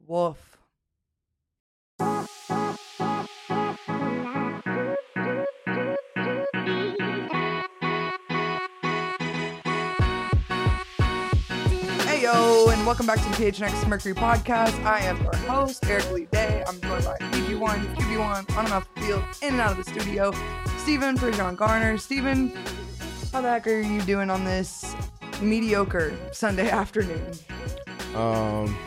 Woof. Hey yo, and welcome back to the PHNX Mercury Podcast. I am your host, Eric Lee Day. I'm joined by EG1, QB1, on and off the field, in and out of the studio, Steven for John Garner. Steven, how the heck are you doing on this mediocre Sunday afternoon? I'm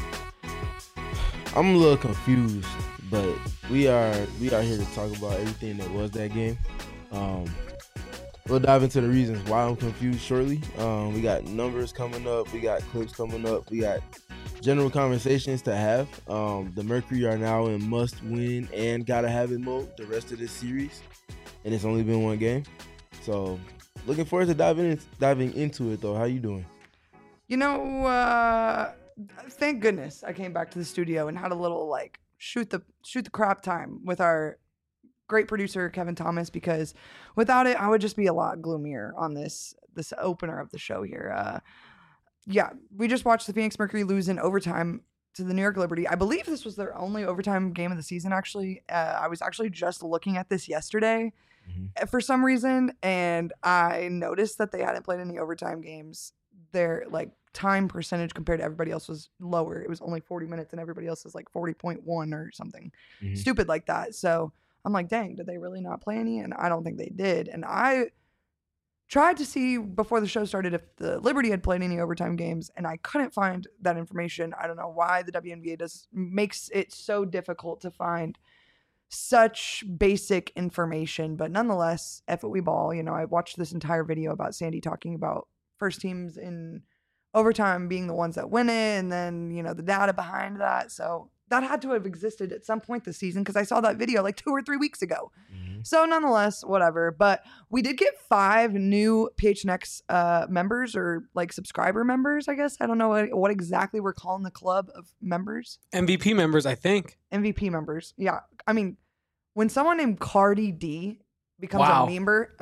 a little confused, but we are here to talk about everything that was that game. We'll dive into the reasons why I'm confused shortly. We got numbers coming up, we got clips coming up, we got general conversations to have. The Mercury are now in must-win and gotta-have-it mode the rest of this series, and it's only been one game. So, looking forward to diving into it, though. How you doing? You know, thank goodness I came back to the studio and had a little shoot the crap time with our great producer Kevin Thomas, because without it I would just be a lot gloomier on this opener of the show here. Yeah, we just watched the Phoenix Mercury lose in overtime to the New York Liberty. I believe this was their only overtime game of the season, actually. I was actually just looking at this yesterday for some reason, and I noticed that they hadn't played any overtime games. Their time percentage compared to everybody else was lower. It was only 40 minutes and everybody else was 40.1 or something stupid like that. So I'm like, dang, did they really not play any? And I don't think they did. And I tried to see before the show started if the Liberty had played any overtime games, and I couldn't find that information. I don't know why the WNBA makes it so difficult to find such basic information, but nonetheless, F it, we ball. You know, I watched this entire video about Sandy talking about first teams in overtime being the ones that win it, and then, you know, the data behind that. So that had to have existed at some point this season, because I saw that video 2 or 3 weeks ago. So nonetheless, whatever. But we did get 5 new PHNX members, or subscriber members, I guess. I don't know what exactly we're calling the club of members. MVP members, I think. MVP members. Yeah. I mean, when someone named Cardi D becomes a member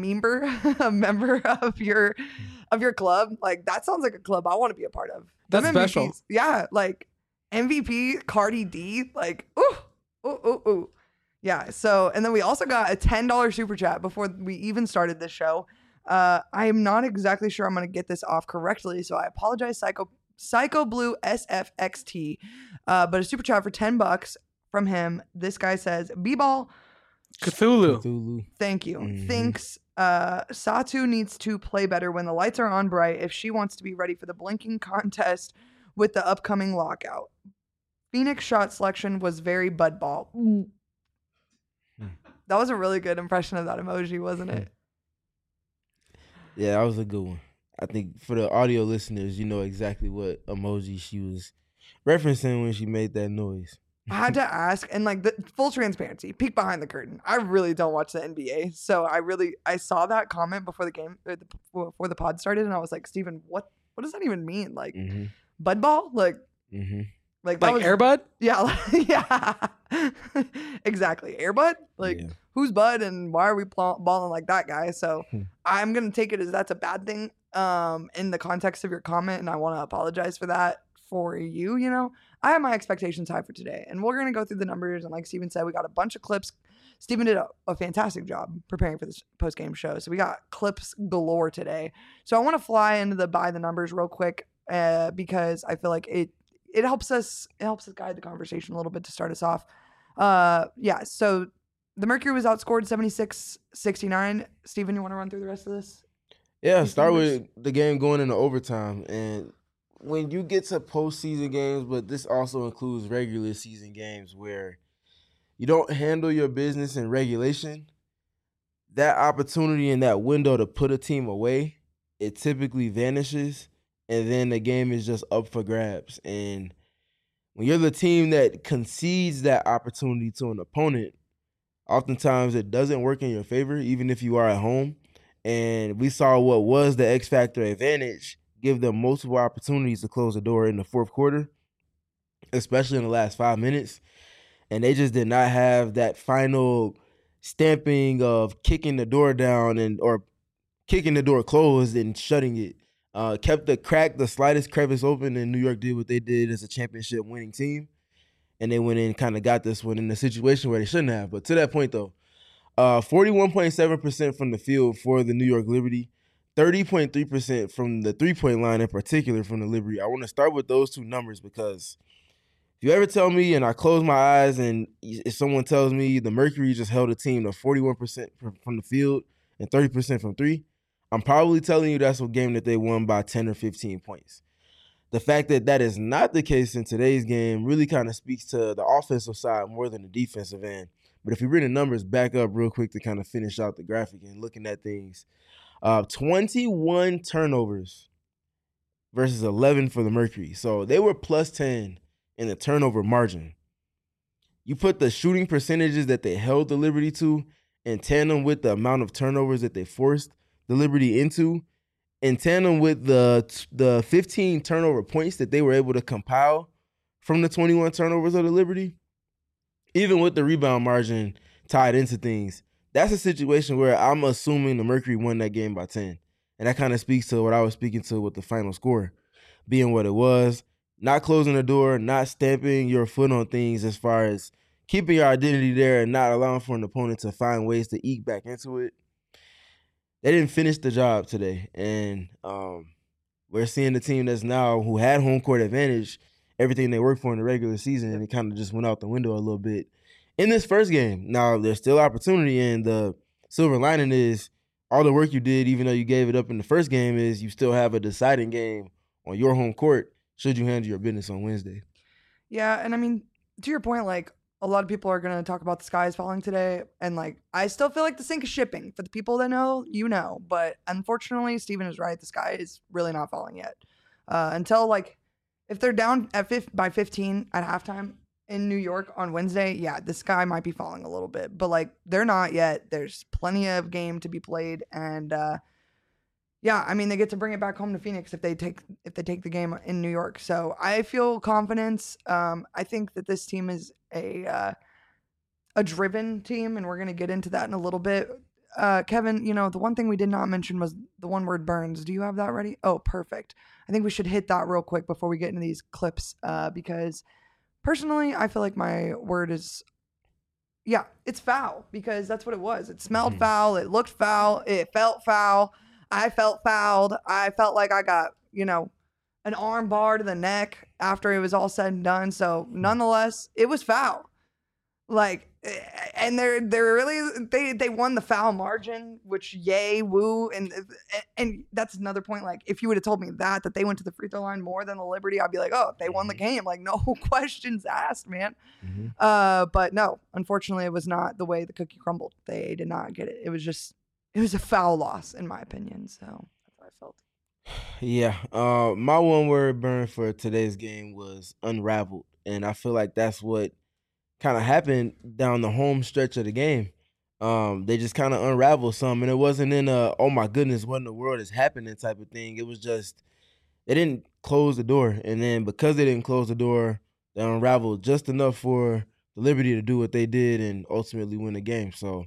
of your club, that sounds like a club I want to be a part of. That's special. Yeah, MVP Cardi D, ooh. Yeah, so, and then we also got a $10 super chat before we even started this show. I am not exactly sure I'm going to get this off correctly, so I apologize, Psycho Blue SFXT. But a super chat for $10 from him. This guy says, B-ball Cthulhu. Thank you. Thinks Satu needs to play better when the lights are on bright if she wants to be ready for the blinking contest with the upcoming lockout. Phoenix shot selection was very budball. That was a really good impression of that emoji, wasn't it? Yeah, that was a good one. I think for the audio listeners, you know exactly what emoji she was referencing when she made that noise. I had to ask, and the full transparency, peek behind the curtain. I really don't watch the NBA, so I saw that comment before the game, before the pod started, and I was like, Steven, what does that even mean? Budball? Like that was, Airbud? Yeah, yeah, exactly. Airbud? Who's Bud, and why are we balling like that guy? So I'm gonna take it as that's a bad thing in the context of your comment, and I want to apologize for that for you. You know, I have my expectations high for today, and we're gonna go through the numbers. And like Steven said, we got a bunch of clips. Steven did a fantastic job preparing for this post-game show, so we got clips galore today. So I want to fly into the by the numbers real quick because I feel like it helps us guide the conversation a little bit to start us off. Yeah, so the Mercury was outscored 76-69. Steven, you want to run through the rest of this? Yeah, start with the game going into overtime. And when you get to postseason games, but this also includes regular season games where you don't handle your business in regulation, that opportunity and that window to put a team away, it typically vanishes. And then the game is just up for grabs. And when you're the team that concedes that opportunity to an opponent, oftentimes it doesn't work in your favor, even if you are at home. And we saw what was the X Factor advantage give them multiple opportunities to close the door in the fourth quarter, especially in the last 5 minutes. And they just did not have that final stamping of kicking the door down or kicking the door closed and shutting it. kept the slightest crevice open, and New York did what they did as a championship winning team. And they went in and kind of got this one in a situation where they shouldn't have. But to that point, though, 41.7% from the field for the New York Liberty, 30.3% from the three-point line in particular from the Liberty. I want to start with those two numbers because if you ever tell me and I close my eyes and if someone tells me the Mercury just held a team to 41% from the field and 30% from three, I'm probably telling you that's a game that they won by 10 or 15 points. The fact that that is not the case in today's game really kind of speaks to the offensive side more than the defensive end. But if we bring the numbers back up real quick to kind of finish out the graphic and looking at things, 21 turnovers versus 11 for the Mercury. So they were plus 10 in the turnover margin. You put the shooting percentages that they held the Liberty to in tandem with the amount of turnovers that they forced the Liberty into, in tandem with the 15 turnover points that they were able to compile from the 21 turnovers of the Liberty, even with the rebound margin tied into things, that's a situation where I'm assuming the Mercury won that game by 10. And that kind of speaks to what I was speaking to with the final score being what it was, not closing the door, not stamping your foot on things as far as keeping your identity there and not allowing for an opponent to find ways to eke back into it. They didn't finish the job today, and we're seeing the team that's now who had home court advantage, everything they worked for in the regular season, and it kind of just went out the window a little bit in this first game. Now, there's still opportunity, and the silver lining is all the work you did, even though you gave it up in the first game, is you still have a deciding game on your home court should you handle your business on Wednesday. Yeah, and I mean, to your point, like, a lot of people are going to talk about the skies falling today. And like, I still feel like the sink is shipping. For the people that know, you know. But unfortunately, Steven is right. The sky is really not falling yet. Until like, if they're down by 15 at halftime in New York on Wednesday, yeah, the sky might be falling a little bit. But like, they're not yet. There's plenty of game to be played. And yeah, I mean, they get to bring it back home to Phoenix if they take the game in New York. So I feel confidence. I think that this team is a driven team, and we're gonna get into that in a little bit. Kevin, the one thing we did not mention was the one word Burns. Do you have that ready? Oh, perfect. I think we should hit that real quick before we get into these clips, because personally, I feel like my word is, yeah, it's foul, because that's what it was. It smelled foul. It looked foul. It felt foul. I felt fouled. I felt like I got, an arm bar to the neck after it was all said and done. So nonetheless, it was foul. Like, and they're really, they won the foul margin, which yay, woo. And that's another point. Like, if you would have told me that they went to the free throw line more than the Liberty, I'd be like, oh, they won the game. Like, no questions asked, man. But no, unfortunately, it was not the way the cookie crumbled. They did not get it. It was a foul loss, in my opinion. So that's how I felt. Yeah. My one word burn for today's game was unraveled. And I feel like that's what kind of happened down the home stretch of the game. They just kind of unraveled some. And it wasn't in a, oh my goodness, what in the world is happening type of thing. It was just, they didn't close the door. And then because they didn't close the door, they unraveled just enough for the Liberty to do what they did and ultimately win the game. So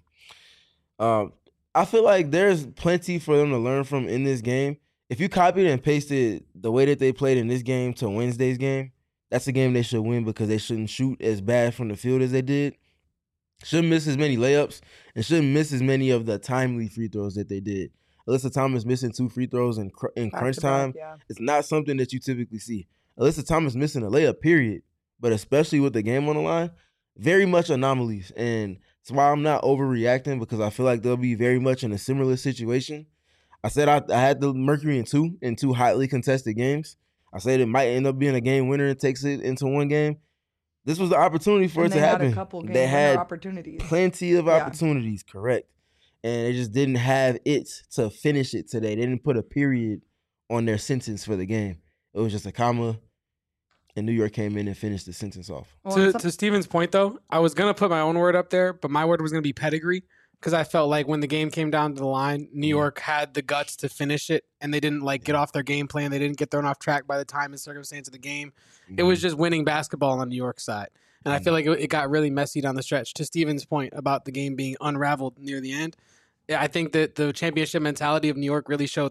I feel like there's plenty for them to learn from in this game. If you copied and pasted the way that they played in this game to Wednesday's game, that's a game they should win because they shouldn't shoot as bad from the field as they did. Shouldn't miss as many layups and shouldn't miss as many of the timely free throws that they did. Alyssa Thomas missing 2 free throws in crunch time. It's not something that you typically see. Alyssa Thomas missing a layup, period. But especially with the game on the line, very much anomalies. And that's why I'm not overreacting, because I feel like they'll be very much in a similar situation. I said I had the Mercury in two highly contested games. I said it might end up being a game winner and takes it into one game. This was the opportunity for it to happen. They had opportunities. Plenty of opportunities, correct. And they just didn't have it to finish it today. They didn't put a period on their sentence for the game. It was just a comma, and New York came in and finished the sentence off. To Steven's point, though, I was going to put my own word up there, but my word was going to be pedigree, because I felt like when the game came down to the line, New York had the guts to finish it, and they didn't get off their game plan. They didn't get thrown off track by the time and circumstance of the game. It was just winning basketball on New York's side. And I feel like it got really messy down the stretch. To Steven's point about the game being unraveled near the end, I think that the championship mentality of New York really showed through.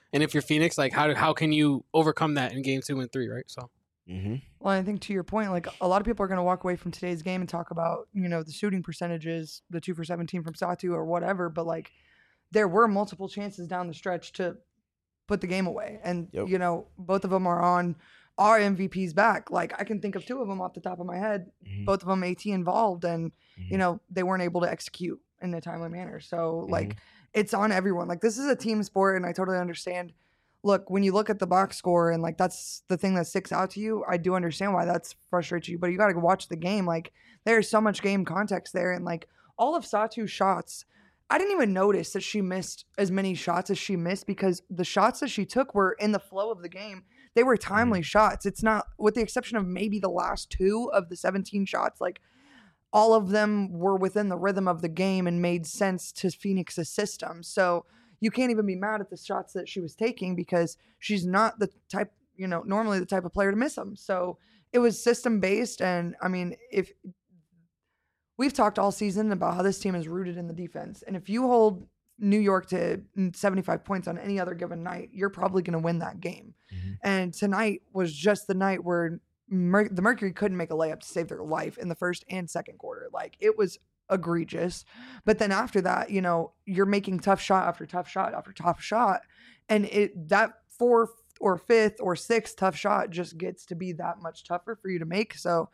And if you're Phoenix, like how can you overcome that in game 2 and 3, right? So. Well, I think to your point, like a lot of people are going to walk away from today's game and talk about, the shooting percentages, the 2 for 17 from Satu or whatever, but like there were multiple chances down the stretch to put the game away. And, both of them are on our MVP's back. Like I can think of 2 of them off the top of my head, both of them AT involved, and, they weren't able to execute in a timely manner. So like it's on everyone. Like this is a team sport, and I totally understand. Look, when you look at the box score and like that's the thing that sticks out to you, I do understand why that's frustrates you, but you got to watch the game. Like there's so much game context there, and like all of Satu's shots, I didn't even notice that she missed as many shots as she missed because the shots that she took were in the flow of the game. They were timely shots. It's not, with the exception of maybe the last 2 of the 17 shots, like all of them were within the rhythm of the game and made sense to Phoenix's system. So you can't even be mad at the shots that she was taking because she's not the type, normally the type of player to miss them. So it was system based. And I mean, if we've talked all season about how this team is rooted in the defense, and if you hold New York to 75 points on any other given night, you're probably going to win that game. And tonight was just the night where the Mercury couldn't make a layup to save their life in the first and second quarter. Like it was egregious. But then after that, you're making tough shot after tough shot after tough shot, and that 4th or 5th or 6th tough shot just gets to be that much tougher for you to make. So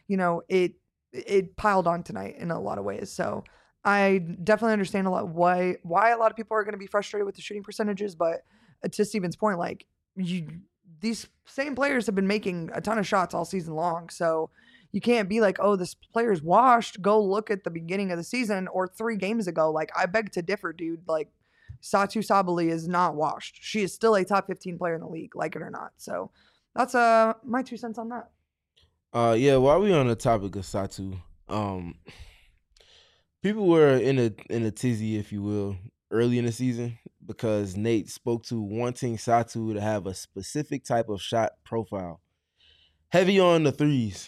it piled on tonight in a lot of ways. So I definitely understand a lot why a lot of people are going to be frustrated with the shooting percentages, but to Steven's point, like these same players have been making a ton of shots all season long. So you can't be like, oh, this player's washed. Go look at the beginning of the season or 3 games ago. Like, I beg to differ, dude. Like, Satu Sabally is not washed. She is still a top 15 player in the league, like it or not. So that's my 2 cents on that. Yeah, while we on the topic of Satu, people were in a tizzy, if you will, early in the season because Nate spoke to wanting Satu to have a specific type of shot profile. Heavy on the threes.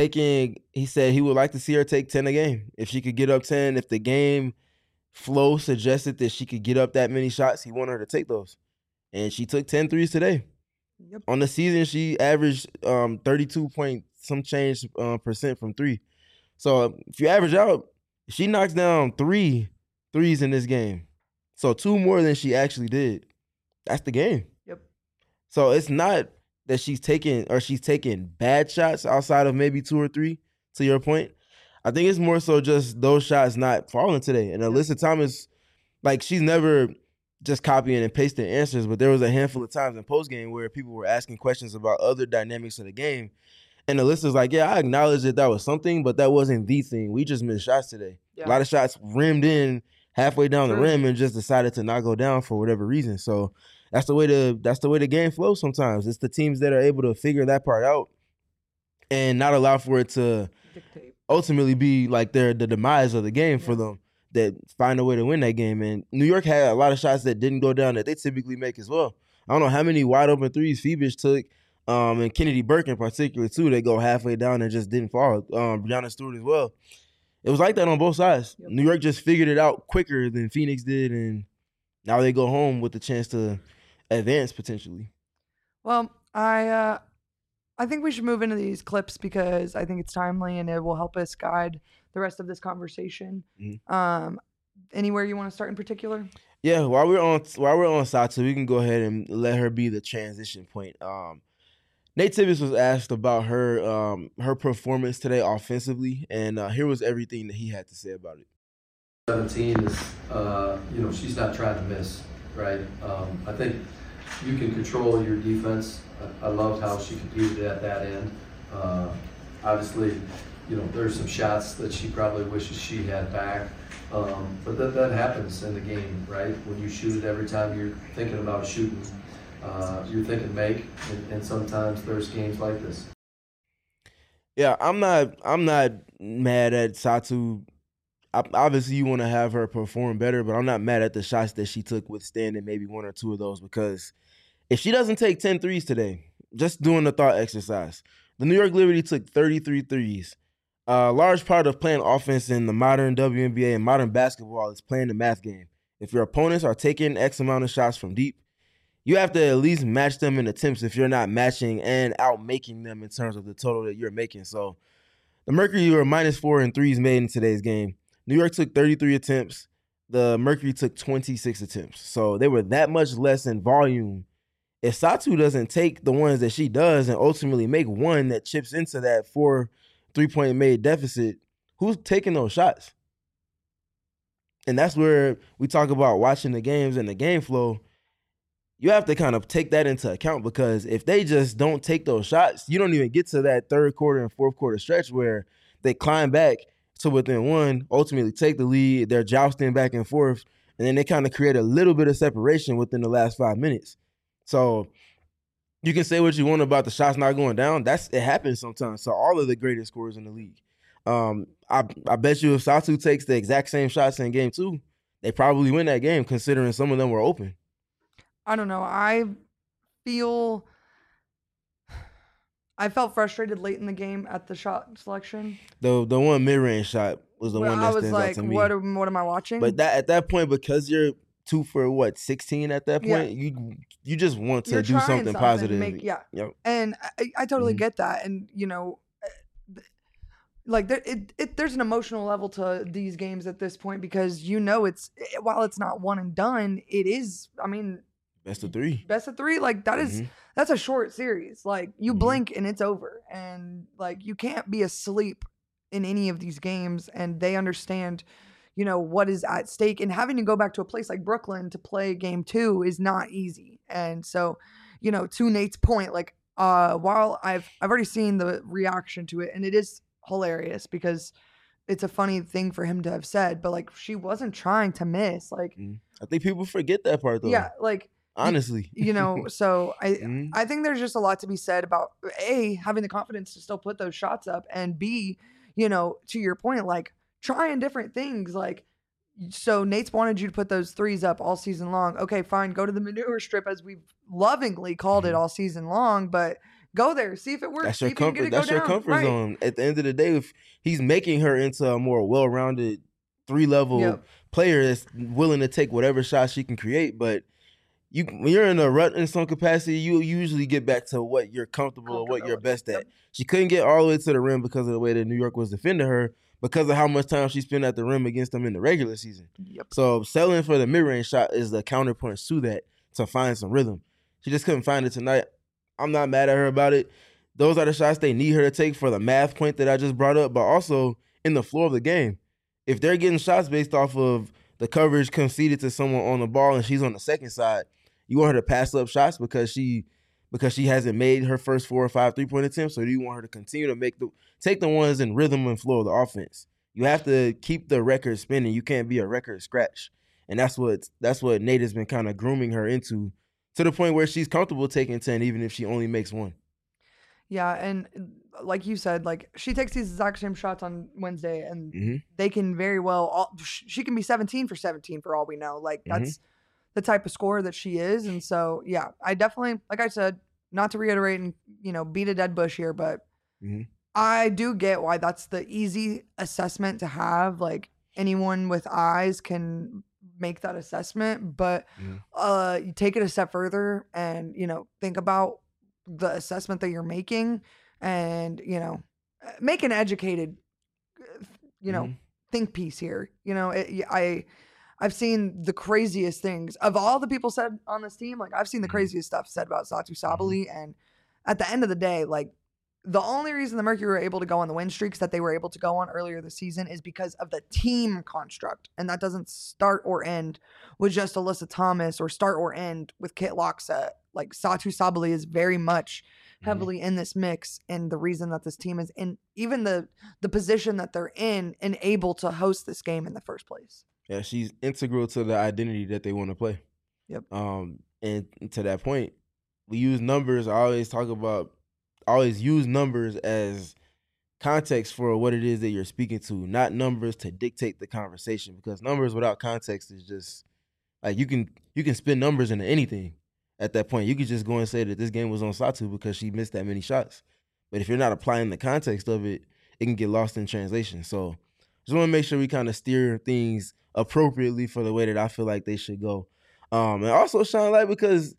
He said he would like to see her take 10 a game. If she could get up 10, if the game flow suggested that she could get up that many shots, he wanted her to take those. And she took 10 threes today. Yep. On the season, she averaged 32 point some change percent from 3. So if you average out, she knocks down 3 threes in this game. So 2 more than she actually did. That's the game. Yep. So it's not that she's taking bad shots outside of maybe 2 or 3, to your point. I think it's more so just those shots not falling today. And Alyssa Thomas, like, she's never just copying and pasting answers, but there was a handful of times in postgame where people were asking questions about other dynamics of the game. And Alyssa's like, yeah, I acknowledge that was something, but that wasn't the thing. We just missed shots today. Yeah. A lot of shots rimmed in halfway down the rim and just decided to not go down for whatever reason. So that's the way the game flows sometimes. It's the teams that are able to figure that part out and not allow for it to ultimately be like the demise of the game for them, that find a way to win that game. And New York had a lot of shots that didn't go down that they typically make as well. I don't know how many wide open threes Phoebus took, and Kennedy Burke in particular too. They go halfway down and just didn't fall. Brianna Stewart as well. It was like that on both sides. Yep. New York just figured it out quicker than Phoenix did, and now they go home with the chance to advance potentially. Well, I think we should move into these clips because I think it's timely and it will help us guide the rest of this conversation. Mm-hmm. Anywhere you want to start in particular? Yeah, while we're on Satu, we can go ahead and let her be the transition point. Nate Tibbetts was asked about her performance today offensively, and here was everything that he had to say about it. 17 is, she's not trying to miss, right? I think you can control your defense. I loved how she competed at that end. Obviously, there's some shots that she probably wishes she had back. But that happens in the game, right? When you shoot it every time you're thinking about shooting, you're thinking make, and sometimes there's games like this. Yeah, I'm not mad at Satu. Obviously, you want to have her perform better, but I'm not mad at the shots that she took, withstanding maybe 1 or 2 of those, because if she doesn't take 10 threes today, just doing the thought exercise, the New York Liberty took 33 threes. A large part of playing offense in the modern WNBA and modern basketball is playing the math game. If your opponents are taking X amount of shots from deep, you have to at least match them in attempts if you're not matching and outmaking them in terms of the total that you're making. So the Mercury were -4 in threes made in today's game. New York took 33 attempts. The Mercury took 26 attempts. So they were that much less in volume. If Satu doesn't take the ones that she does and ultimately make one that chips into that 4 3-point made deficit, who's taking those shots? And that's where we talk about watching the games and the game flow. You have to kind of take that into account, because if they just don't take those shots, you don't even get to that third quarter and fourth quarter stretch where they climb back to within one, ultimately take the lead, they're jousting back and forth, and then they kind of create a little bit of separation within the last 5 minutes. So you can say what you want about the shots not going down. It happens sometimes. So all of the greatest scorers in the league. I bet you if Satu takes the exact same shots in game 2, they probably win that game, considering some of them were open. I don't know. I felt frustrated late in the game at the shot selection. The one mid-range shot was the one that stands out to me. What am I watching? But at that point, because you're 2 for 16 at that point, you just want to do something positive. Yep. And I totally get that. And like there's an emotional level to these games at this point, because while it's not one and done, it is. I mean, best of 3. Like that's a short series. Like you blink and it's over, and like you can't be asleep in any of these games. And they understand, what is at stake, and having to go back to a place like Brooklyn to play game 2 is not easy. And so, to Nate's point, like while I've already seen the reaction to it, and it is hilarious because it's a funny thing for him to have said, but like she wasn't trying to miss. Like I think people forget that part though. Yeah, like honestly, so I think there's just a lot to be said about A, having the confidence to still put those shots up, and B, to your point, like trying different things. Like, so Nate's wanted you to put those threes up all season long. Okay, fine, go to the manure strip, as we've lovingly called it all season long, but go there, see if it works. That's your comfort. That's your comfort zone. At the end of the day, if he's making her into a more well-rounded 3-level player that's willing to take whatever shot she can create, but when you're in a rut in some capacity, you usually get back to what you're comfortable or what you're best at. She couldn't get all the way to the rim because of the way that New York was defending her, because of how much time she spent at the rim against them in the regular season. So settling for the mid-range shot is the counterpunch to that, to find some rhythm. She just couldn't find it tonight. I'm not mad at her about it. Those are the shots they need her to take for the math point that I just brought up, but also in the floor of the game. If they're getting shots based off of the coverage conceded to someone on the ball and she's on the second side, you want her to pass up shots because she hasn't made her first 4 or 5 3-point attempts, or do you want her to continue to take the ones in rhythm and flow of the offense? You have to keep the record spinning. You can't be a record scratch. And that's what Nate has been kind of grooming her into, to the point where she's comfortable taking 10 even if she only makes 1. Yeah, and like you said, like she takes these exact same shots on Wednesday, and they can very well she can be 17 for 17 for all we know. Like that's the type of scorer that she is. And so yeah, I definitely, like I said, not to reiterate and beat a dead bush here, but I do get why that's the easy assessment to have. Like anyone with eyes can make that assessment, but you take it a step further and think about the assessment that you're making, and make an educated think piece here. I've seen the craziest things of all the people said on this team. Like I've seen the craziest stuff said about Satu Sabally, and at the end of the day, like the only reason the Mercury were able to go on the win streaks that they were able to go on earlier this season is because of the team construct. And that doesn't start or end with just Alyssa Thomas, or start or end with Kit Lockset. Like Satu Sabally is very much heavily in this mix, and the reason that this team is in even the position that they're in and able to host this game in the first place. Yeah, she's integral to the identity that they want to play. Yep. And to that point, we use numbers. I always use numbers as context for what it is that you're speaking to, not numbers to dictate the conversation, because numbers without context is just like you can spin numbers into anything at that point. You could just go and say that this game was on Satu because she missed that many shots. But if you're not applying the context of it, it can get lost in translation. So just want to make sure we kind of steer things appropriately for the way that I feel like they should go. And also shine light because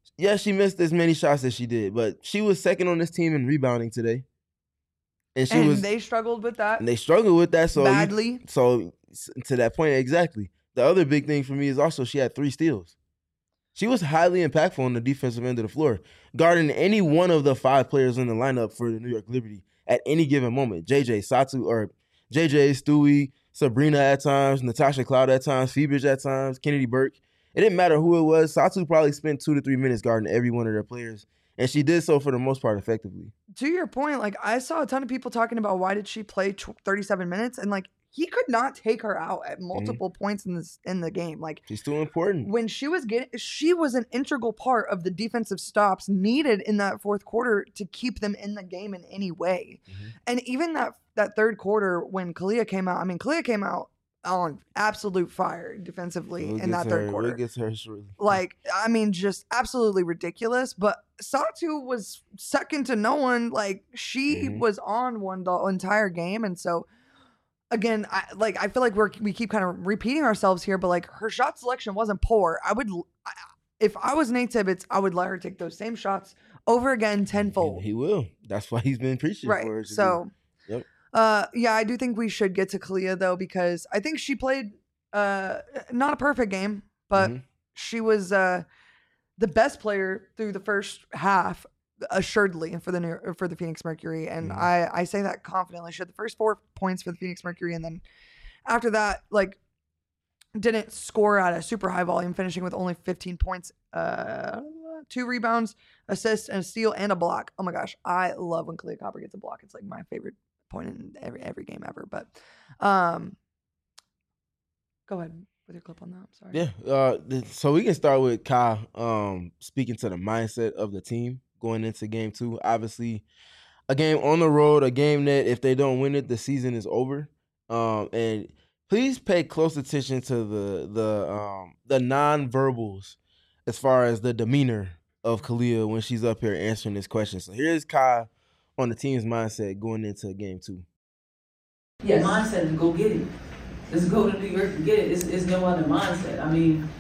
Yeah, she missed as many shots as she did, but she was second on this team in rebounding today. And they struggled with that. And they struggled with that badly. So to that point, exactly. The other big thing for me is also she had 3 steals. She was highly impactful on the defensive end of the floor, guarding any one of the 5 players in the lineup for the New York Liberty at any given moment. JJ, Stewie, Sabrina at times, Natasha Cloud at times, Phoebridge at times, Kennedy Burke. It didn't matter who it was. Satu probably spent 2 to 3 minutes guarding every one of their players, and she did so for the most part effectively. To your point, like I saw a ton of people talking about why did she play 37 minutes, and like he could not take her out at multiple points in the game. Like she's too important. When she was an integral part of the defensive stops needed in that fourth quarter to keep them in the game in any way. And even that third quarter when Kalia came out, I mean Kalia came out on absolute fire defensively in that third quarter. We'll get to her shortly. Like, I mean, just absolutely ridiculous. But Satu was second to no one. Like, she was on one the entire game. And so, again, I feel like we keep kind of repeating ourselves here, but like her shot selection wasn't poor. If I was Nate Tibbetts, I would let her take those same shots over again tenfold. He will. That's why he's been preaching for her. So, yep. Yeah, I do think we should get to Kalia though, because I think she played not a perfect game, but she was the best player through the first half, assuredly for the Phoenix Mercury, and I say that confidently. She had the first 4 points for the Phoenix Mercury, and then after that, like, didn't score at a super high volume, finishing with only 15 points, 2 rebounds, assists, and a steal and a block. Oh my gosh, I love when Kalia Copper gets a block. It's like my favorite point in every game ever. But go ahead with your clip on that. I'm sorry. Yeah. So we can start with Kyle speaking to the mindset of the team going into game 2. Obviously, a game on the road, a game that if they don't win it, the season is over. And please pay close attention to the nonverbals as far as the demeanor of Kalia when she's up here answering this question. So here's Kyle on the team's mindset going into game 2. Yeah, mindset is go get it. Let's go to New York and get it. It's no other mindset. I mean,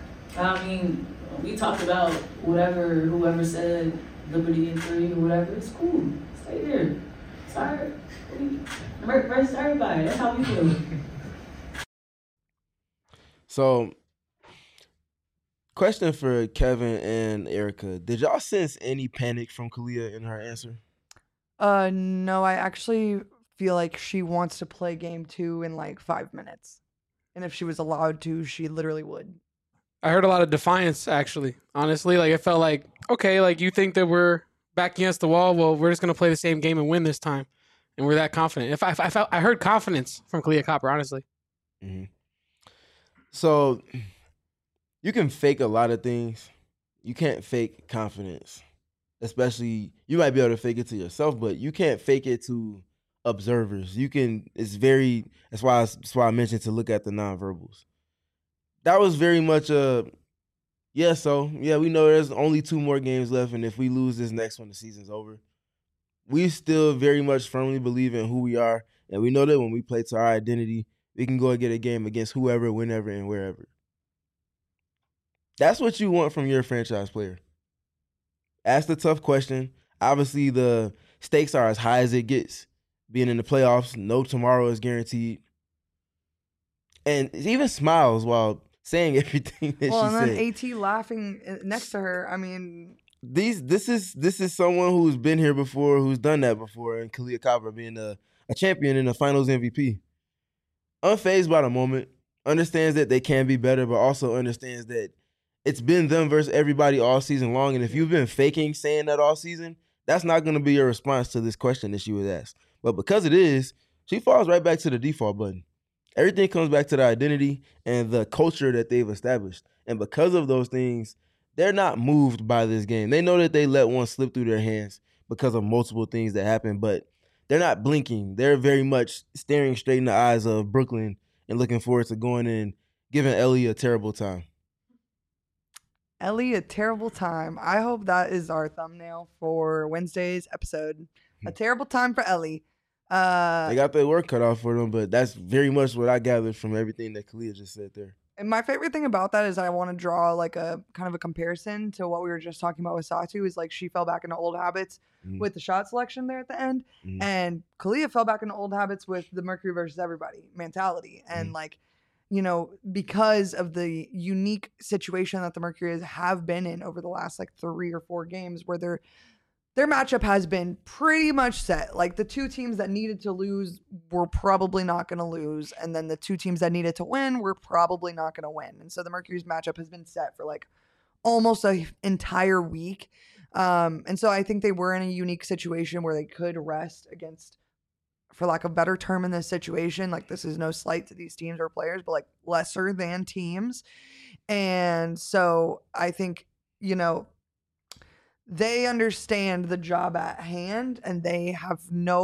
we talked about whoever said Liberty in 3 or whatever. It's cool. Stay there. Sorry. Rest everybody. That's how we feel. So, question for Kevin and Erica. Did y'all sense any panic from Kalia in her answer? No, I actually feel like she wants to play game 2 in like 5 minutes. And if she was allowed to, she literally would. I heard a lot of defiance, actually. Honestly, like it felt like, okay, like you think that we're back against the wall. Well, we're just going to play the same game and win this time. And we're that confident. I heard confidence from Kalia Copper, honestly. Mm-hmm. So you can fake a lot of things. You can't fake confidence. Especially, you might be able to fake it to yourself, but you can't fake it to observers. That's why I mentioned to look at the nonverbals. That was very much we know there's only 2 more games left, and if we lose this next one, the season's over. We still very much firmly believe in who we are, and we know that when we play to our identity, we can go and get a game against whoever, whenever, and wherever. That's what you want from your franchise player. Ask the tough question. Obviously, the stakes are as high as it gets. Being in the playoffs, no tomorrow is guaranteed. And even smiles while saying everything that she said. Well, and then AT laughing next to her. I mean, this is someone who's been here before, who's done that before, and Kalia Copper being a champion and a Finals MVP. Unfazed by the moment, understands that they can be better, but also understands that it's been them versus everybody all season long. And if you've been faking saying that all season, that's not going to be your response to this question that she was asked. But because it is, she falls right back to the default button. Everything comes back to the identity and the culture that they've established. And because of those things, they're not moved by this game. They know that they let one slip through their hands because of multiple things that happen, but they're not blinking. They're very much staring straight in the eyes of Brooklyn and looking forward to going in, giving Ellie a terrible time. Ellie, a terrible time. I hope that is our thumbnail for Wednesday's episode. A terrible time for Ellie. They got their work cut off for them, but that's very much what I gathered from everything that Kalia just said there. And my favorite thing about that is I want to draw like a kind of a comparison to what we were just talking about with Satu, is like she fell back into old habits with the shot selection there at the end. And Kalia fell back into old habits with the Mercury versus everybody mentality. And like, you know, because of the unique situation that the Mercury have been in over the last like 3 or 4 games where their matchup has been pretty much set. Like the 2 teams that needed to lose were probably not going to lose. And then the 2 teams that needed to win were probably not going to win. And so the Mercury's matchup has been set for like almost an entire week. And so I think they were in a unique situation where they could rest against, for lack of a better term in this situation, like this is no slight to these teams or players, but like lesser than teams. And so I think, you know, they understand the job at hand, and they have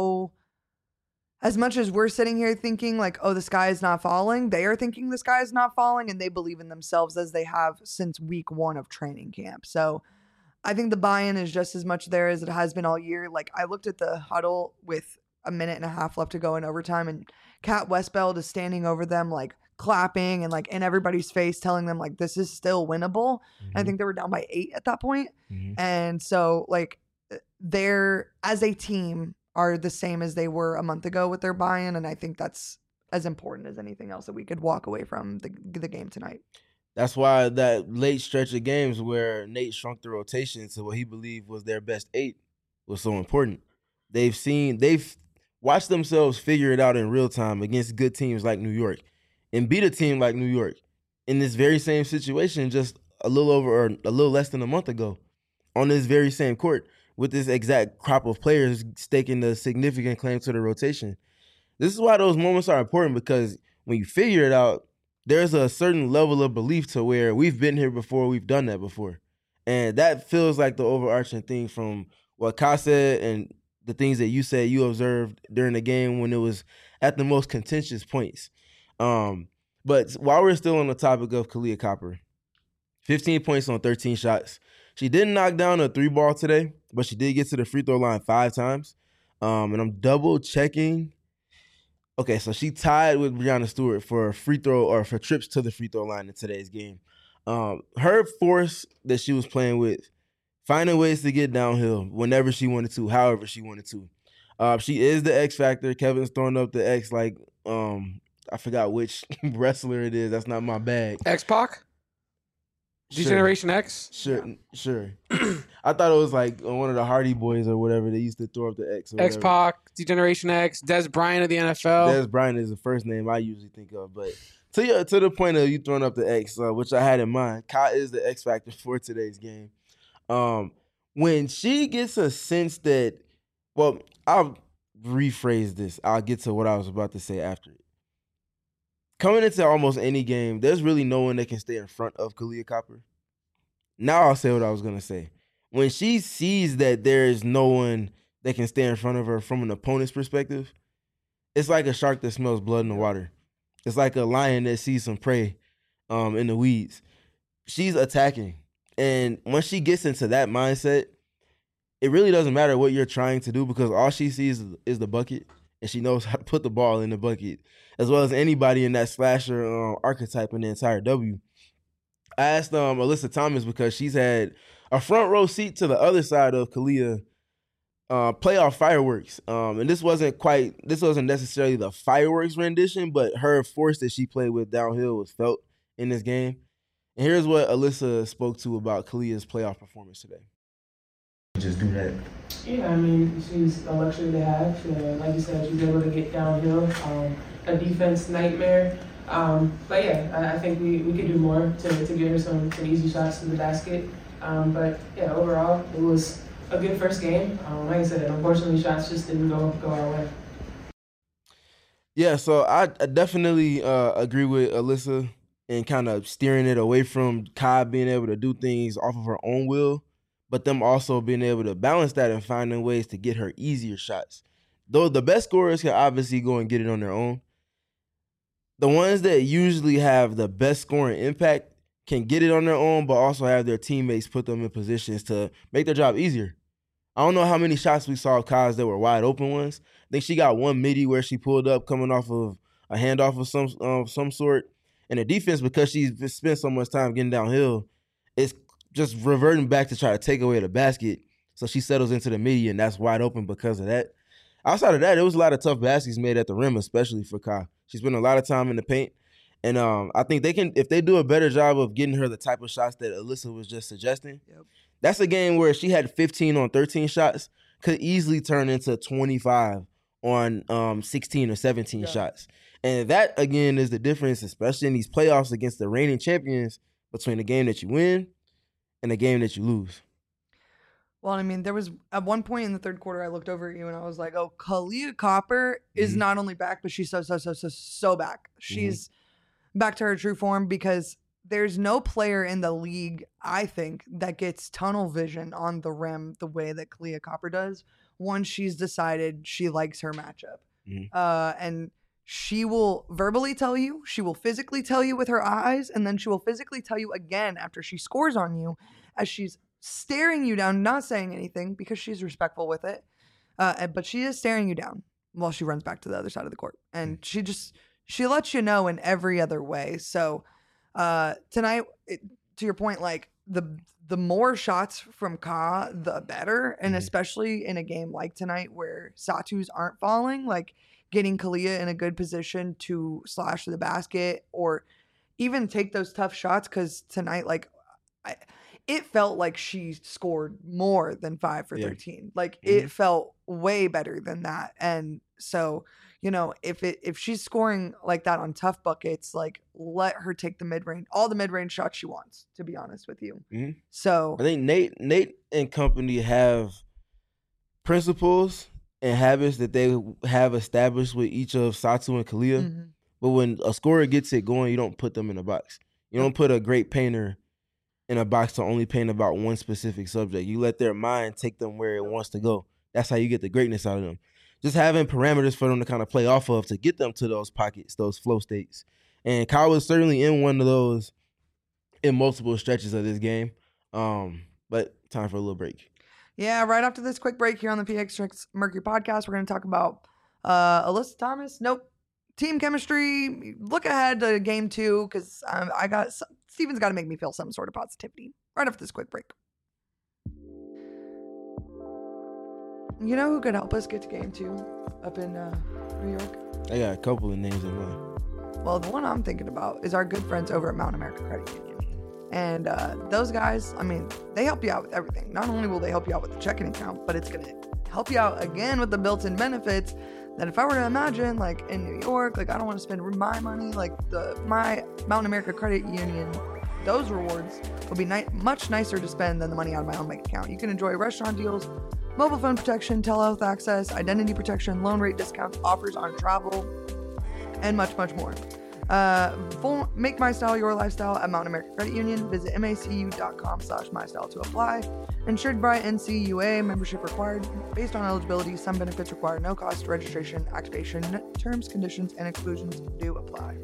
as much as we're sitting here thinking like, oh, the sky is not falling, they are thinking the sky is not falling, and they believe in themselves as they have since week 1 of training camp. So I think the buy-in is just as much there as it has been all year. Like I looked at the huddle with a minute and a half left to go in overtime, and Kat Westbeld is standing over them like clapping and like in everybody's face telling them like this is still winnable. I think they were down by 8 at that point. And so like they're, as a team, are the same as they were a month ago with their buy-in, and I think that's as important as anything else that we could walk away from the game tonight. That's why that late stretch of games where Nate shrunk the rotation to what he believed was their best 8 was so important. They've watched themselves figure it out in real time against good teams like New York, and beat a team like New York in this very same situation just a little less than a month ago on this very same court with this exact crop of players staking a significant claim to the rotation. This is why those moments are important, because when you figure it out, there's a certain level of belief to where we've been here before, we've done that before. And that feels like the overarching thing from what Ka said and the things that you said you observed during the game when it was at the most contentious points. But while we're still on the topic of Kahleah Copper, 15 points on 13 shots. She didn't knock down a 3-ball today, but she did get to the free throw line 5 times. And I'm double checking. Okay, so she tied with Breanna Stewart for free throw or for trips to the free throw line in today's game. Her force that she was playing with, finding ways to get downhill whenever she wanted to, however she wanted to. She is the X factor. Kevin's throwing up the X like I forgot which wrestler it is. That's not my bag. X-Pac? Generation X? Sure. I thought it was like one of the Hardy Boys or whatever. They used to throw up the X. X-Pac, Generation X, Des Bryant of the NFL. Des Bryant is the first name I usually think of. But to the point of you throwing up the X, which I had in mind, Ka is the X factor for today's game. When she gets a sense that, well, I'll rephrase this. I'll get to what I was about to say after it. Coming into almost any game, there's really no one that can stay in front of Kahleah Copper. Now I'll say what I was going to say. When she sees that there is no one that can stay in front of her from an opponent's perspective, it's like a shark that smells blood in the water. It's like a lion that sees some prey in the weeds. She's attacking. And once she gets into that mindset, it really doesn't matter what you're trying to do, because all she sees is the bucket, and she knows how to put the ball in the bucket, as well as anybody in that slasher archetype in the entire W. I asked Alyssa Thomas, because she's had a front row seat to the other side of Kahleah playoff fireworks. And this wasn't necessarily the fireworks rendition, but her force that she played with downhill was felt in this game. And here's what Alyssa spoke to about Kahleah's playoff performance today. Just do that. Yeah, I mean, she's a luxury to have. Like you said, she's able to get downhill. A defense nightmare. But yeah, I think we could do more to get her some easy shots to the basket. But yeah, overall, it was a good first game. Like I said, unfortunately, shots just didn't go our way. Yeah, so I definitely agree with Alyssa in kind of steering it away from Kai being able to do things off of her own will, but them also being able to balance that and finding ways to get her easier shots. Though the best scorers can obviously go and get it on their own, the ones that usually have the best scoring impact can get it on their own, but also have their teammates put them in positions to make their job easier. I don't know how many shots we saw of Kaz that were wide open ones. I think she got one midi where she pulled up coming off of a handoff of some sort, And the defense, because she's spent so much time getting downhill, it's just reverting back to try to take away the basket. So she settles into the midi, and that's wide open because of that. Outside of that, there was a lot of tough baskets made at the rim, especially for Ka. She spent a lot of time in the paint. And I think they can, if they do a better job of getting her the type of shots that Alyssa was just suggesting, that's a game where she had 15 on 13 shots, could easily turn into 25 on 16 or 17 shots. And that, again, is the difference, especially in these playoffs against the reigning champions, between the game that you win and the game that you lose. Well, I mean, there was at one point in the third quarter, I looked over at you and I was like, oh, Kahleah Copper is not only back, but she's so back. She's back to her true form, because there's no player in the league, I think, that gets tunnel vision on the rim the way that Kahleah Copper does once she's decided she likes her matchup. And she will verbally tell you, she will physically tell you with her eyes, and then she will physically tell you again after she scores on you as she's staring you down, not saying anything because she's respectful with it. But she is staring you down while she runs back to the other side of the court. And she lets you know in every other way. So tonight, to your point, like the more shots from Ka, the better. And especially in a game like tonight where Satus aren't falling, like getting Kahleah in a good position to slash to the basket or even take those tough shots. Because tonight, like, it felt like she scored more than 5 for 13. Like it felt way better than that. And so, you know, if she's scoring like that on tough buckets, like let her take all the mid-range shots she wants, to be honest with you. So I think Nate and company have principles and habits that they have established with each of Satu and Kahleah. But when a scorer gets it going, you don't put them in a box. You don't put a great painter in a box to only paint about one specific subject. You let their mind take them where it wants to go. That's how you get the greatness out of them. Just having parameters for them to kind of play off of to get them to those pockets, those flow states. And Kyle was certainly in one of those in multiple stretches of this game. But time for a little break. Yeah, right after this quick break here on the PX Mercury podcast, we're going to talk about Alyssa Thomas. Team chemistry. Look ahead to game 2 because Steven's got to make me feel some sort of positivity right after this quick break. You know who could help us get to game 2 up in New York? I got a couple of names in mind. Well, the one I'm thinking about is our good friends over at Mountain America Credit Union. And those guys, I mean, they help you out with everything. Not only will they help you out with the checking account, but it's going to help you out again with the built-in benefits that if I were to imagine, like in New York, like I don't want to spend my money, like my Mountain America Credit Union, those rewards will be much nicer to spend than the money out of my own bank account. You can enjoy restaurant deals, mobile phone protection, telehealth access, identity protection, loan rate discounts, offers on travel, and much, much more. Make My Style your lifestyle at Mountain America Credit Union. Visit macu.com/mystyle to apply. Insured by NCUA. Membership required. Based on eligibility, some benefits require no cost registration, activation. Terms, conditions, and exclusions do apply.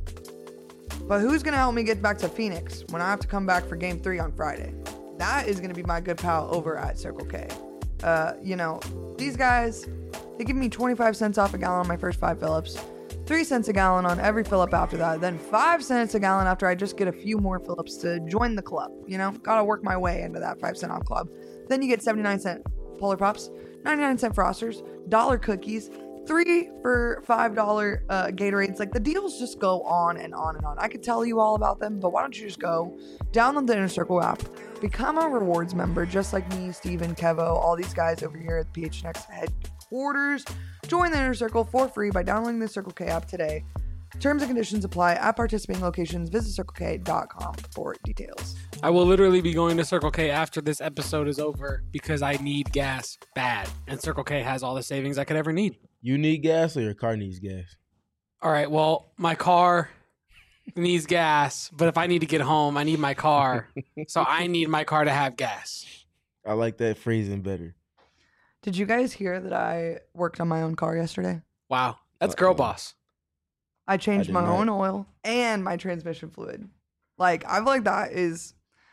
But who's going to help me get back to Phoenix when I have to come back for Game 3 on Friday? That is going to be my good pal over at Circle K. You know, these guys, they give me 25 cents off a gallon on my first 5 fill-ups. 3 cents a gallon on every fill-up after that, then 5 cents a gallon after I just get a few more fill-ups to join the club. You know, gotta work my way into that 5 cent off club. Then you get 79-cent Polar Pops, 99-cent Frosters, $1 cookies, 3 for $5 Gatorades. Like the deals just go on and on and on. I could tell you all about them, but why don't you just go download the Inner Circle app, become a rewards member, just like me, Steven, Kevo, all these guys over here at PHNX headquarters. Join the Inner Circle for free by downloading the Circle K app today. Terms and conditions apply at participating locations. Visit CircleK.com for details. I will literally be going to Circle K after this episode is over because I need gas bad. And Circle K has all the savings I could ever need. You need gas or your car needs gas? All right, well, my car needs gas, but if I need to get home, I need my car. So I need my car to have gas. I like that phrasing better. Did you guys hear that I worked on my own car yesterday? Wow, that's girl boss. I changed my own oil and my transmission fluid. Like, I feel like that is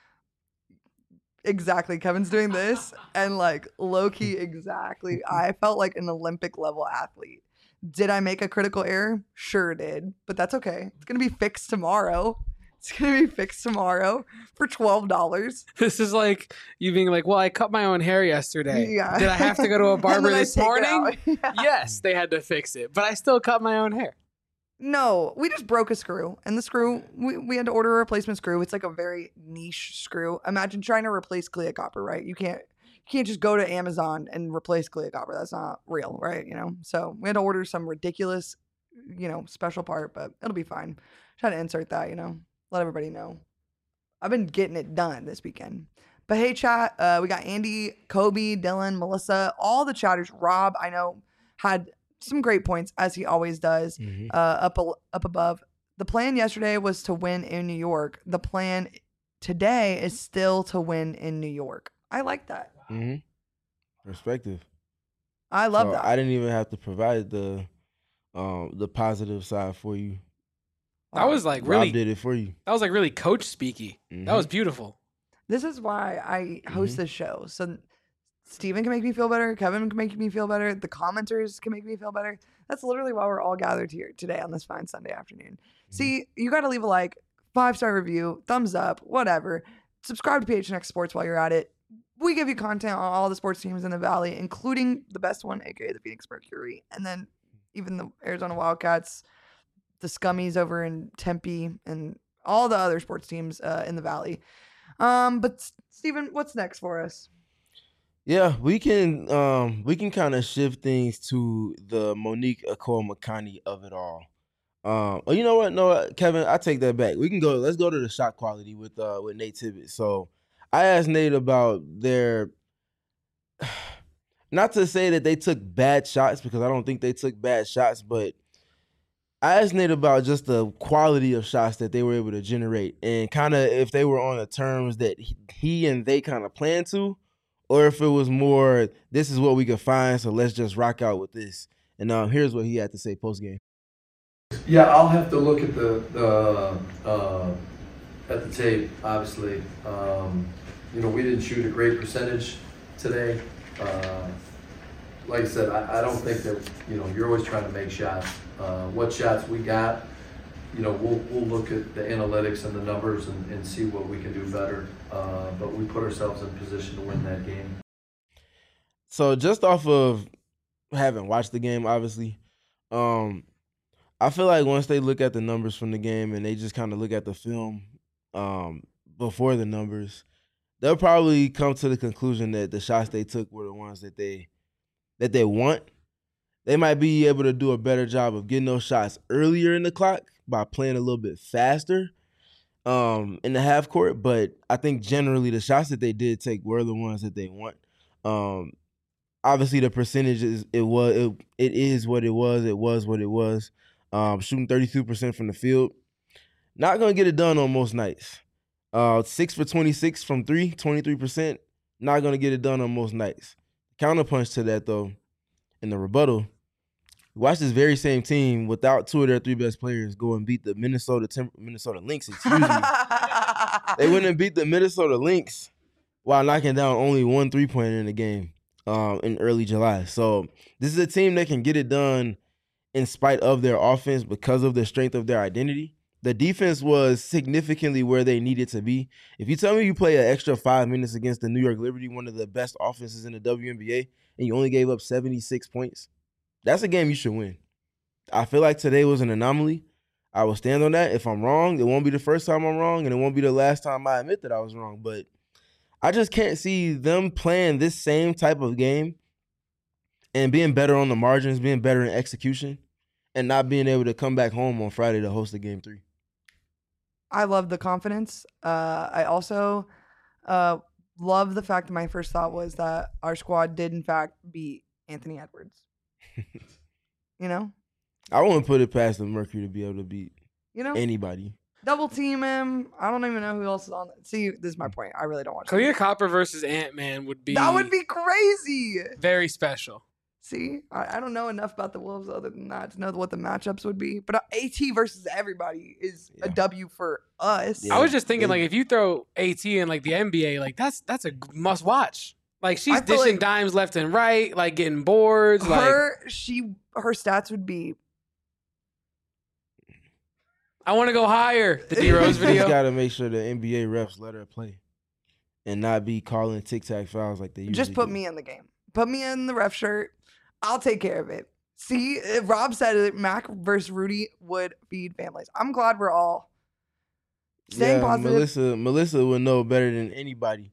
exactly Kevin's doing this and like low-key exactly. I felt like an Olympic level athlete Did I make a critical error? Sure did, but that's okay. It's gonna be fixed tomorrow. It's gonna be fixed tomorrow for $12. This is like you being like, well, I cut my own hair yesterday. Yeah. Did I have to go to a And barber then I this take it morning? out. Yeah. Yes, they had to fix it, but I still cut my own hair. No, we just broke a screw, and the screw we had to order a replacement screw. It's like a very niche screw. Imagine trying to replace Clea copper, right? You can't just go to Amazon and replace Clea copper. That's not real, right? So we had to order some ridiculous, special part, but it'll be fine. Try to insert that, let everybody know. I've been getting it done this weekend. But hey, chat, we got Andy, Kobe, Dylan, Melissa, all the chatters. Rob, I know, had some great points, as he always does, up above. The plan yesterday was to win in New York. The plan today is still to win in New York. I like that. Mm-hmm. Perspective. I love that. I didn't even have to provide the positive side for you. That was like Rob really did it for you. That was like really coach speaky. Mm-hmm. That was beautiful. This is why I host this show. So Steven can make me feel better. Kevin can make me feel better. The commenters can make me feel better. That's literally why we're all gathered here today on this fine Sunday afternoon. See, you got to leave a like, 5-star review, thumbs up, whatever. Subscribe to PHNX Sports while you're at it. We give you content on all the sports teams in the Valley, including the best one, aka the Phoenix Mercury, and then even the Arizona Wildcats, the Scummies over in Tempe, and all the other sports teams in the Valley. But Steven, what's next for us? Yeah, we can kind of shift things to the Monique Akol-Makani of it all. You know what? No, Kevin, I take that back. Let's go to the shot quality with Nate Tibbetts. So I asked Nate about their, not to say that they took bad shots, because I don't think they took bad shots, but I asked Nate about just the quality of shots that they were able to generate, and kind of if they were on the terms that he and they kind of planned to, or if it was more, this is what we could find, so let's just rock out with this. And here's what he had to say post game. Yeah, I'll have to look at the tape. Obviously, we didn't shoot a great percentage today. Like I said, I don't think that you're always trying to make shots. What shots we got, we'll look at the analytics and the numbers and see what we can do better. But we put ourselves in position to win that game. So just off of having watched the game, obviously, I feel like once they look at the numbers from the game and they just kind of look at the film before the numbers, they'll probably come to the conclusion that the shots they took were the ones that they want. They might be able to do a better job of getting those shots earlier in the clock by playing a little bit faster in the half court. But I think generally the shots that they did take were the ones that they want. Obviously the percentages, it is what it was. It was what it was. Shooting 32% from the field. Not going to get it done on most nights. 6 for 26 from 3, 23%. Not going to get it done on most nights. Counterpunch to that, though, in the rebuttal, watch this very same team without two of their three best players go and beat the Minnesota Lynx. Excuse me. They went and beat the Minnesota Lynx while knocking down only one three-pointer in the game in early July. So this is a team that can get it done in spite of their offense because of the strength of their identity. The defense was significantly where they needed to be. If you tell me you play an extra 5 minutes against the New York Liberty, one of the best offenses in the WNBA, and you only gave up 76 points, that's a game you should win. I feel like today was an anomaly. I will stand on that. If I'm wrong, it won't be the first time I'm wrong, and it won't be the last time I admit that I was wrong. But I just can't see them playing this same type of game and being better on the margins, being better in execution, and not being able to come back home on Friday to host a Game 3. I love the confidence. I also love the fact that my first thought was that our squad did, in fact, beat Anthony Edwards. I wouldn't put it past the Mercury to be able to beat anybody. Double team him. I don't even know who else is on that. See, this is my point. I really don't watch Clea Copper versus Ant-Man would be... That would be crazy. Very special. See, I don't know enough about the Wolves other than that to know what the matchups would be. But AT versus everybody is a W for us. Yeah. I was just thinking, if you throw AT in, the NBA, that's a must-watch. Like she's I feel dishing like dimes left and right, like getting boards. her stats would be. I want to go higher. The D Rose You just video. got to make sure the NBA refs let her play and not be calling tic-tac fouls like they usually Just put do. me in the game. Put me in the ref shirt. I'll take care of it. See, if Rob said it, Mac versus Rudy would feed families. I'm glad we're all staying positive. Melissa would know better than anybody.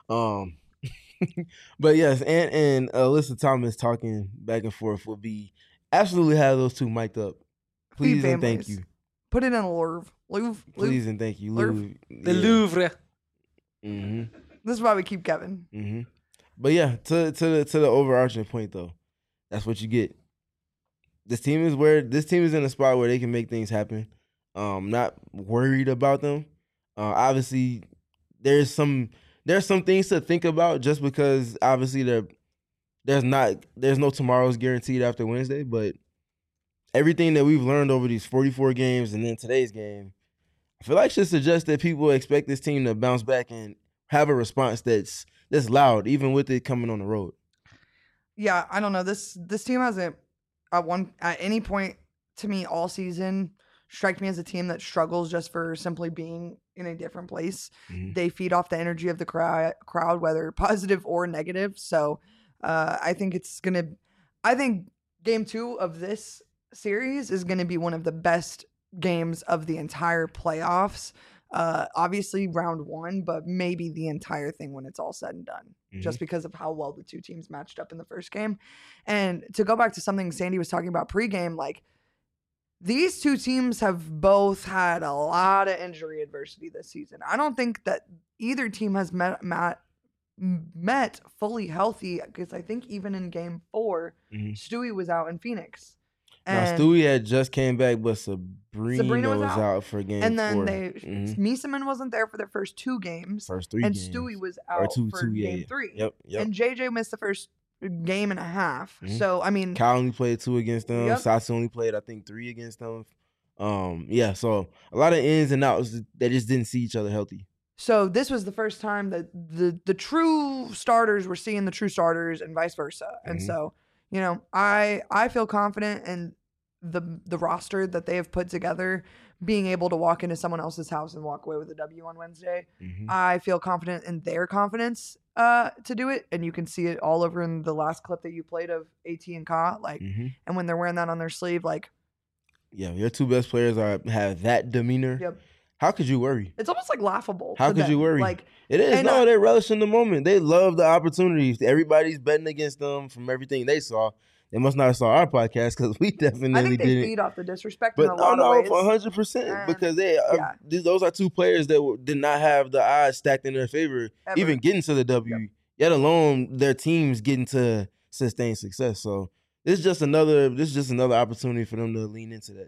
But yes, and Alyssa Thomas talking back and forth would be absolutely have those two mic'd up. Please and thank you. Put it in a Louvre. Please and thank you. Louvre. The Louvre. Mm-hmm. This is why we keep Kevin. Mm-hmm. But yeah, to the overarching point though, that's what you get. This team is in a spot where they can make things happen. Not worried about them. Obviously, there's some things to think about just because obviously there's no tomorrow's guaranteed after Wednesday, but everything that we've learned over these 44 games and then today's game, I feel like should suggest that people expect this team to bounce back and have a response that's loud, even with it coming on the road. Yeah, I don't know. This team hasn't at any point to me all season strike me as a team that struggles just for simply being in a different place. Mm-hmm. They feed off the energy of the crowd, whether positive or negative. So I think game 2 of this series is going to be one of the best games of the entire playoffs. Obviously round 1, but maybe the entire thing when it's all said and done, just because of how well the two teams matched up in the first game. And to go back to something Sandy was talking about pregame, like these two teams have both had a lot of injury adversity this season. I don't think that either team has met fully healthy, because I think even in game 4, Stewie was out in Phoenix. Now, Stewie had just came back, but Sabrina was out for game 4. And then Miesemann wasn't there for their first 2 games. First 3 and games. Stewie was out for game 3. Yep. And JJ missed the first game and a half. So, I mean... Kyle only played 2 against them. Yep. Sasha only played, I think, 3 against them. So a lot of ins and outs that just didn't see each other healthy. So this was the first time that the true starters were seeing the true starters and vice versa. And so, you know, I feel confident in the roster that they have put together, being able to walk into someone else's house and walk away with a W on Wednesday. I feel confident in their confidence to do it. And you can see it all over in the last clip that you played of AT and Ka. Like, and when they're wearing that on their sleeve, like, yeah, your 2 best players have that demeanor. Yep. How could you worry? It's almost like laughable. How could you worry? Like, it is. No, they relish in the moment. They love the opportunities. Everybody's betting against them from everything they saw. They must not have saw our podcast because we definitely didn't. I think they feed off the disrespect in a lot of ways. 100%. Because those are 2 players that did not have the odds stacked in their favor, even getting to the W, yet alone their teams getting to sustain success. So this is just another opportunity for them to lean into that.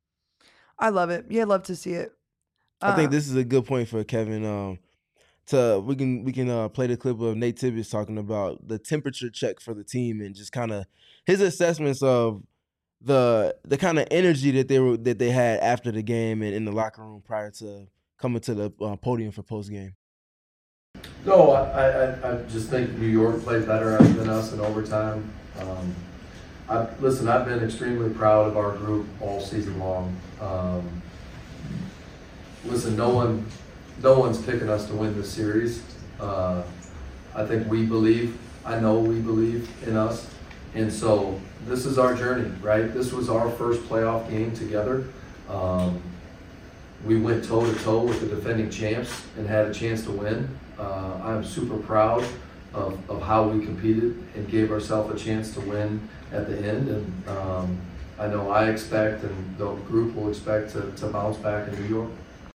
I love it. Yeah, I'd love to see it. I think this is a good point for Kevin. We can play the clip of Nate Tibbetts talking about the temperature check for the team and just kind of his assessments of the kind of energy that they had after the game and in the locker room prior to coming to the podium for post game. No, I just think New York played better than us in overtime. I've been extremely proud of our group all season long. No one's picking us to win this series. I know we believe in us. And so this is our journey, right? This was our first playoff game together. We went toe-to-toe with the defending champs and had a chance to win. I'm super proud of how we competed and gave ourselves a chance to win at the end. And I know I expect and the group will expect to bounce back in New York.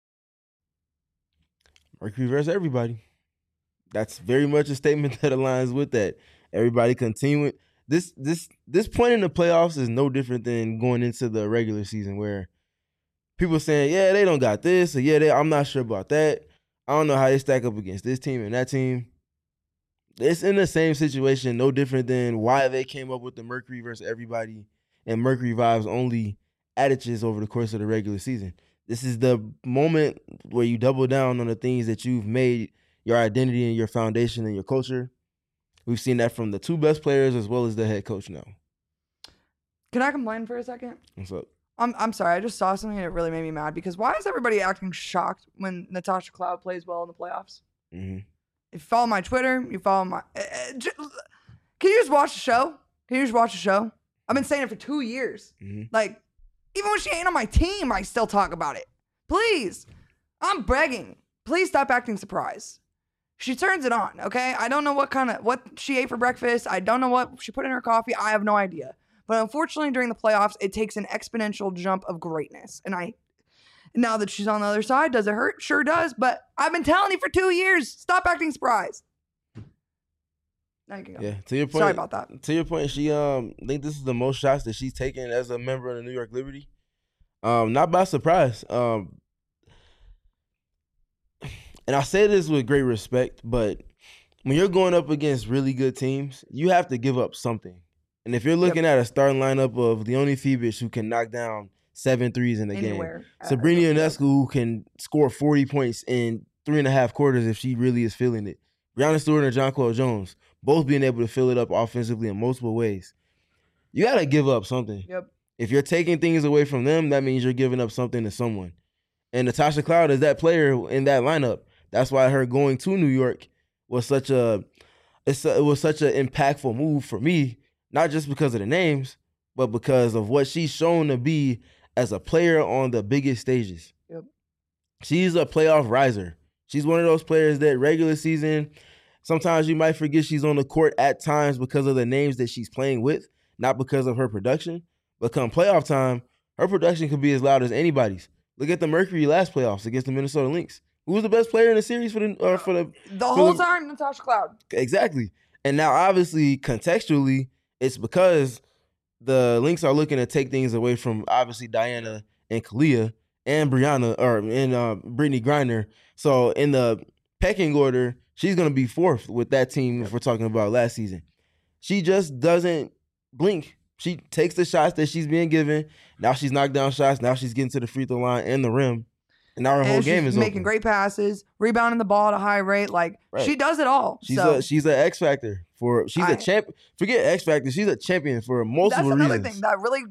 Mercury versus everybody. That's very much a statement that aligns with that. Everybody continuing. This point in the playoffs is no different than going into the regular season where people saying, yeah, they don't got this, or yeah, I'm not sure about that. I don't know how they stack up against this team and that team. It's in the same situation, no different than why they came up with the Mercury versus everybody and Mercury vibes only adages over the course of the regular season. This is the moment where you double down on the things that you've made your identity and your foundation and your culture. We've seen that from the two best players as well as the head coach now. Can I complain for a second? What's up? I'm sorry. I just saw something that really made me mad because why is everybody acting shocked when Natasha Cloud plays well in the playoffs? Mm-hmm. If you follow my Twitter, you follow my. Can you just watch the show? Can you just watch the show? I've been saying it for 2 years. Mm-hmm. Like, even when she ain't on my team, I still talk about it. Please, I'm begging. Please stop acting surprised. She turns it on, okay? I don't know what she ate for breakfast. I don't know what she put in her coffee. I have no idea. But unfortunately, during the playoffs, it takes an exponential jump of greatness. And now that she's on the other side, does it hurt? Sure does. But I've been telling you for 2 years, stop acting surprised. Now you can go. Yeah, to your point. Sorry about that. To your point, she I think this is the most shots that she's taken as a member of the New York Liberty. Not by surprise. And I say this with great respect, but when you're going up against really good teams, you have to give up something. And if you're looking at a starting lineup of Leonie Fiebich, who can knock down 7 threes in a game, Sabrina Ionescu, who can score 40 points in 3.5 quarters if she really is feeling it, Breanna Stewart and Jonquel Jones, both being able to fill it up offensively in multiple ways. You got to give up something. Yep. If you're taking things away from them, that means you're giving up something to someone. And Natasha Cloud is that player in that lineup. That's why her going to New York was such an impactful move for me, not just because of the names, but because of what she's shown to be as a player on the biggest stages. Yep. She's a playoff riser. She's one of those players that regular season, sometimes you might forget she's on the court at times because of the names that she's playing with, not because of her production. But come playoff time, her production could be as loud as anybody's. Look at the Mercury last playoffs against the Minnesota Lynx. Who was the best player in the series for the whole time? Natasha Cloud. Exactly. And now, obviously, contextually, it's because the Lynx are looking to take things away from obviously Diana and Kalia and Brianna Brittany Griner. So in the pecking order, she's going to be 4th with that team if we're talking about last season. She just doesn't blink. She takes the shots that she's being given. Now she's knocked down shots. Now she's getting to the free throw line and the rim. And now her whole game is making open. great passes, rebounding the ball at a high rate. Like, she does it all. She's an X factor a champ. Forget X factor. She's a champion for multiple reasons. That's another thing that really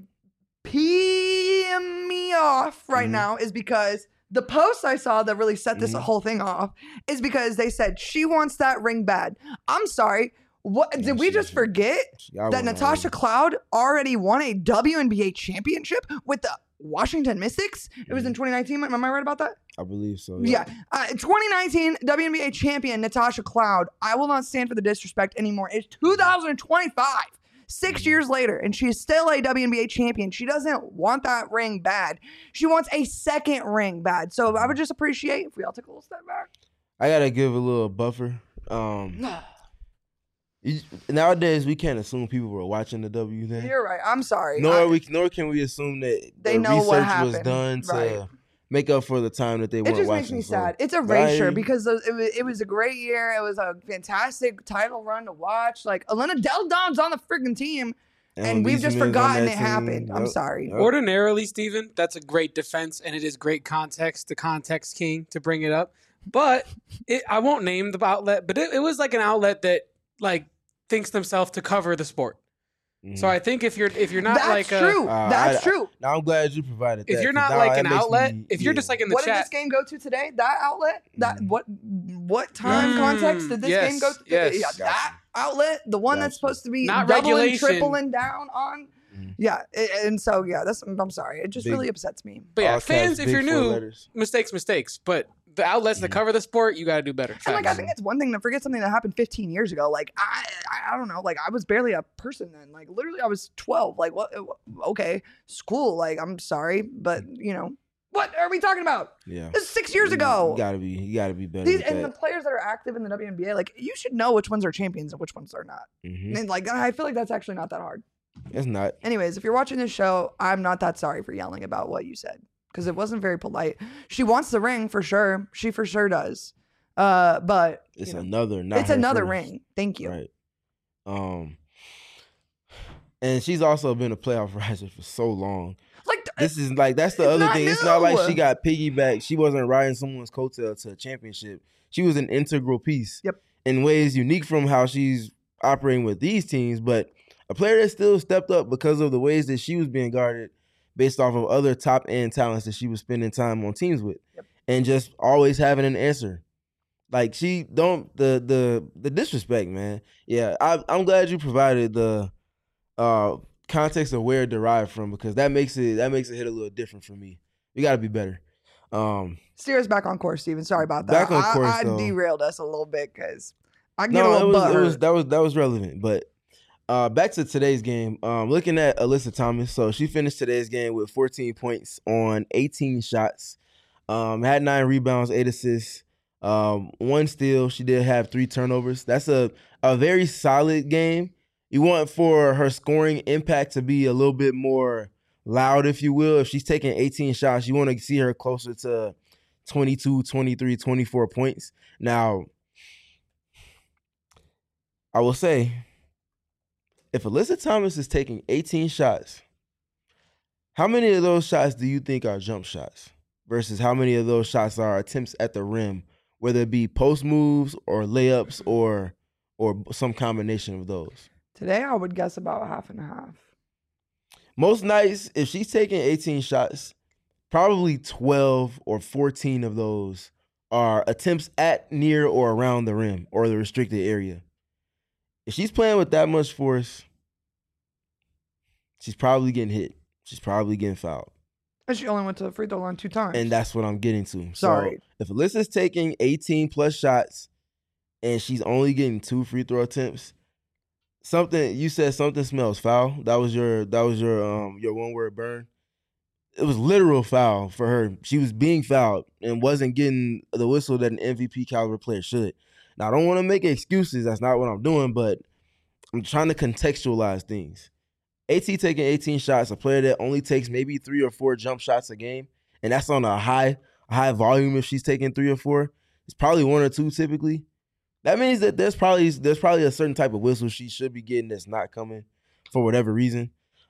peeing me off right now is because the post I saw that really set this whole thing off is because they said she wants that ring bad. I'm sorry. What did we just forget that Natasha Cloud already won a WNBA championship with the Washington Mystics? It was in 2019. Am I right about that? I believe so. Yeah. 2019 WNBA champion Natasha Cloud. I will not stand for the disrespect anymore. It's 2025. 6 years later, and she's still a WNBA champion. She doesn't want that ring bad. She wants a second ring bad. So I would just appreciate if we all took a little step back. I gotta give a little buffer. Nowadays, we can't assume people were watching the W thing. You're right. I'm sorry. Nor can we assume that they know research what happened. was done to make up for the time that they weren't watching. It just makes me sad. It's erasure because it was a great year. It was a fantastic title run to watch. Like, Elena Del Don's on the freaking team, and we've just forgotten it happened. I'm sorry. Ordinarily, Steven, that's a great defense, and it is great context, the context king, to bring it up. But I won't name the outlet, but it was like an outlet that like thinks themselves to cover the sport. So I think if you're not that's true. That's true. Now I'm glad you provided that. If you're not like an outlet, if you're just like in the chat. What did this game go to today? That outlet? What time context did this game go to? Yes. Yeah, that outlet, the one that's supposed to be not doubling, regulation. tripling down on. Yeah, and so I'm sorry. It just really upsets me. But yeah, fans, if you're new, mistakes. But the outlets that cover the sport, you got to do better. And like, I think it's one thing to forget something that happened 15 years ago. Like, I don't know. Like, I was barely a person then. Like, literally, I was 12. Like, what? Okay, school. Like, I'm sorry, but you know, what are we talking about? Yeah, this is 6 years ago. You gotta be better. And the players that are active in the WNBA, like, you should know which ones are champions and which ones are not. And like, I feel like that's actually not that hard. It's not. Anyways, if you're watching this show, I'm not that sorry for yelling about what you said because it wasn't very polite. She wants the ring for sure. She for sure does. But it's it's another ring. Thank you. Right. And she's also been a playoff riser for so long. Like, this is like that's the other thing. New. It's not like she got piggyback. She wasn't riding someone's coattail to a championship. She was an integral piece. Yep. In ways unique from how she's operating with these teams, but a player that still stepped up because of the ways that she was being guarded based off of other top end talents that she was spending time on teams with, and just always having an answer. Like she don't the disrespect, man. Yeah, I'm glad you provided the context of where it derived from, because that makes it hit a little different for me. We got to be better. Steer us back on course, Steven. Sorry about that. Back on course, I though. Derailed us a little bit because I get a little butthurt. That was relevant. But back to today's game. Looking at Alyssa Thomas, so she finished today's game with 14 points on 18 shots. Had 9 rebounds, 8 assists, 1 steal. She did have 3 turnovers. That's a very solid game. You want for her scoring impact to be a little bit more loud, if you will. If she's taking 18 shots, you want to see her closer to 22, 23, 24 points. Now, I will say, if Alyssa Thomas is taking 18 shots, how many of those shots do you think are jump shots versus how many of those shots are attempts at the rim, whether it be post moves or layups or some combination of those? Today, I would guess about half and half. Most nights, if she's taking 18 shots, probably 12 or 14 of those are attempts at, near, or around the rim or the restricted area. If she's playing with that much force, she's probably getting hit. She's probably getting fouled. And she only went to the free throw line 2 times. And that's what I'm getting to. Sorry. So if Alyssa's taking 18 plus shots and she's only getting 2 free throw attempts, you said something smells foul. That was your one word burn. It was literal foul for her. She was being fouled and wasn't getting the whistle that an MVP caliber player should. Now, I don't want to make excuses. That's not what I'm doing, but I'm trying to contextualize things. AT taking 18 shots, a player that only takes maybe 3 or 4 jump shots a game, and that's on a high volume. If she's taking 3 or 4, it's probably 1 or 2 typically. That means that there's probably a certain type of whistle she should be getting that's not coming for whatever reason.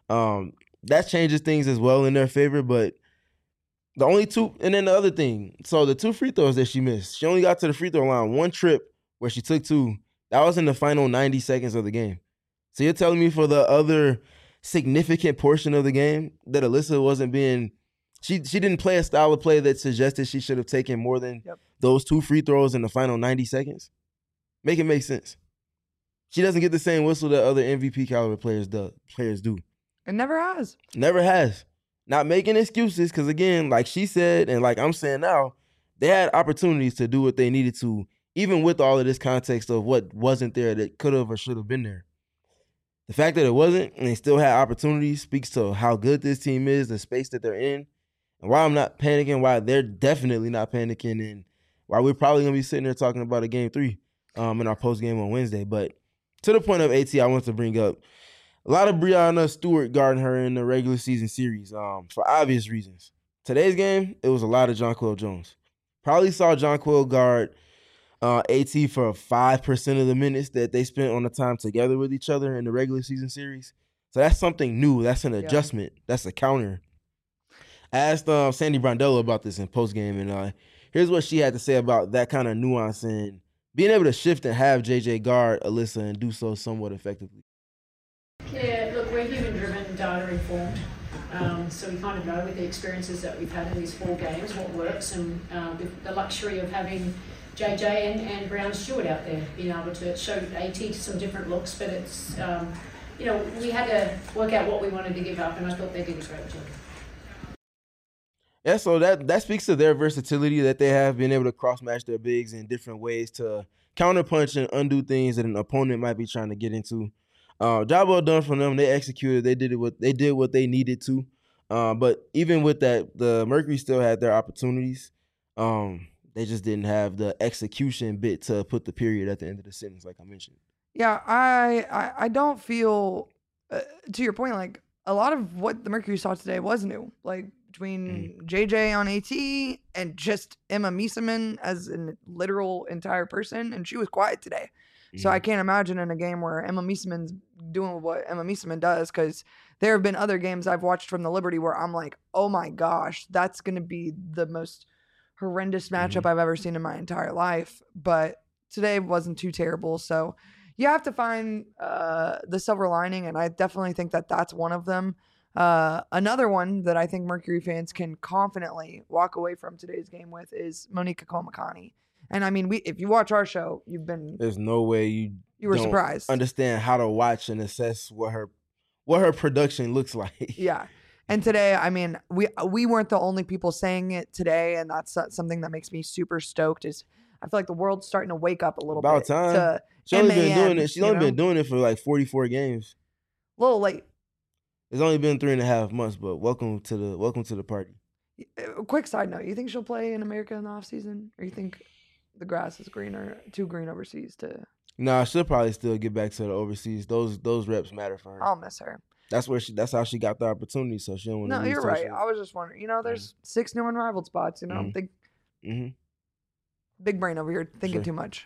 That changes things as well in their favor, but the only 2, and then the other thing, so the 2 free throws that she missed, she only got to the free throw line 1 trip where she took 2. That was in the final 90 seconds of the game. So you're telling me for the other significant portion of the game that Alyssa wasn't being, she didn't play a style of play that suggested she should have taken more than those 2 free throws in the final 90 seconds? Make it make sense. She doesn't get the same whistle that other MVP caliber players do. It never has. Never has. Not making excuses, because again, like she said, and like I'm saying now, they had opportunities to do what they needed to, even with all of this context of what wasn't there that could have or should have been there. The fact that it wasn't and they still had opportunities speaks to how good this team is, the space that they're in, and why I'm not panicking, why they're definitely not panicking, and why we're probably going to be sitting there talking about a game 3 in our post game on Wednesday. But to the point of AT, I want to bring up a lot of Breanna Stewart guarding her in the regular season series for obvious reasons. Today's game, it was a lot of Jonquel Jones. Probably saw Jonquel guard AT for 5% of the minutes that they spent on the time together with each other in the regular season series. So that's something new. That's an adjustment. That's a counter. I asked Sandy Brondello about this in postgame, and here's what she had to say about that kind of nuance and being able to shift and have JJ guard Alyssa and do so somewhat effectively. Yeah, look, we're human-driven, data-informed. So we kind of know with the experiences that we've had in these 4 games what works, and with the luxury of having JJ and Breanna Stewart out there, being able to show AT some different looks, but it's, we had to work out what we wanted to give up, and I thought they did a great job. Yeah, so that speaks to their versatility that they have, been able to cross-match their bigs in different ways to counterpunch and undo things that an opponent might be trying to get into. Job well done from them. They executed. They did what they needed to. But even with that, the Mercury still had their opportunities. They just didn't have the execution bit to put the period at the end of the sentence, like I mentioned. Yeah, I don't feel, to your point, like a lot of what the Mercury saw today was new. Like between JJ on AT and just Emma Miesemann as a literal entire person, and she was quiet today. So I can't imagine in a game where Emma Miesemann's doing what Emma Miesemann does, because there have been other games I've watched from the Liberty where I'm like, oh my gosh, that's going to be the most horrendous matchup I've ever seen in my entire life. But today wasn't too terrible. So you have to find the silver lining, and I definitely think that that's one of them. Another one that I think Mercury fans can confidently walk away from today's game with is Monica Komakani. And I mean, if you watch our show, there's no way you were don't surprised. Understand how to watch and assess what her production looks like. Yeah. And today, I mean, we weren't the only people saying it today, and that's something that makes me super stoked. Is I feel like the world's starting to wake up a little bit. About time. She's only been doing it. She's only been doing it for like 44 games. A little late. It's only been 3.5 months, but welcome to the party. A quick side note: you think she'll play in America in the off season, or you think the grass is too green overseas to? Nah, she'll probably still get back to the overseas. Those reps matter for her. I'll miss her. That's how she got the opportunity. So she don't want to. No, you're right. I was just wondering. There's 6 new unrivaled spots. I'm thinking. Big brain over here thinking too much.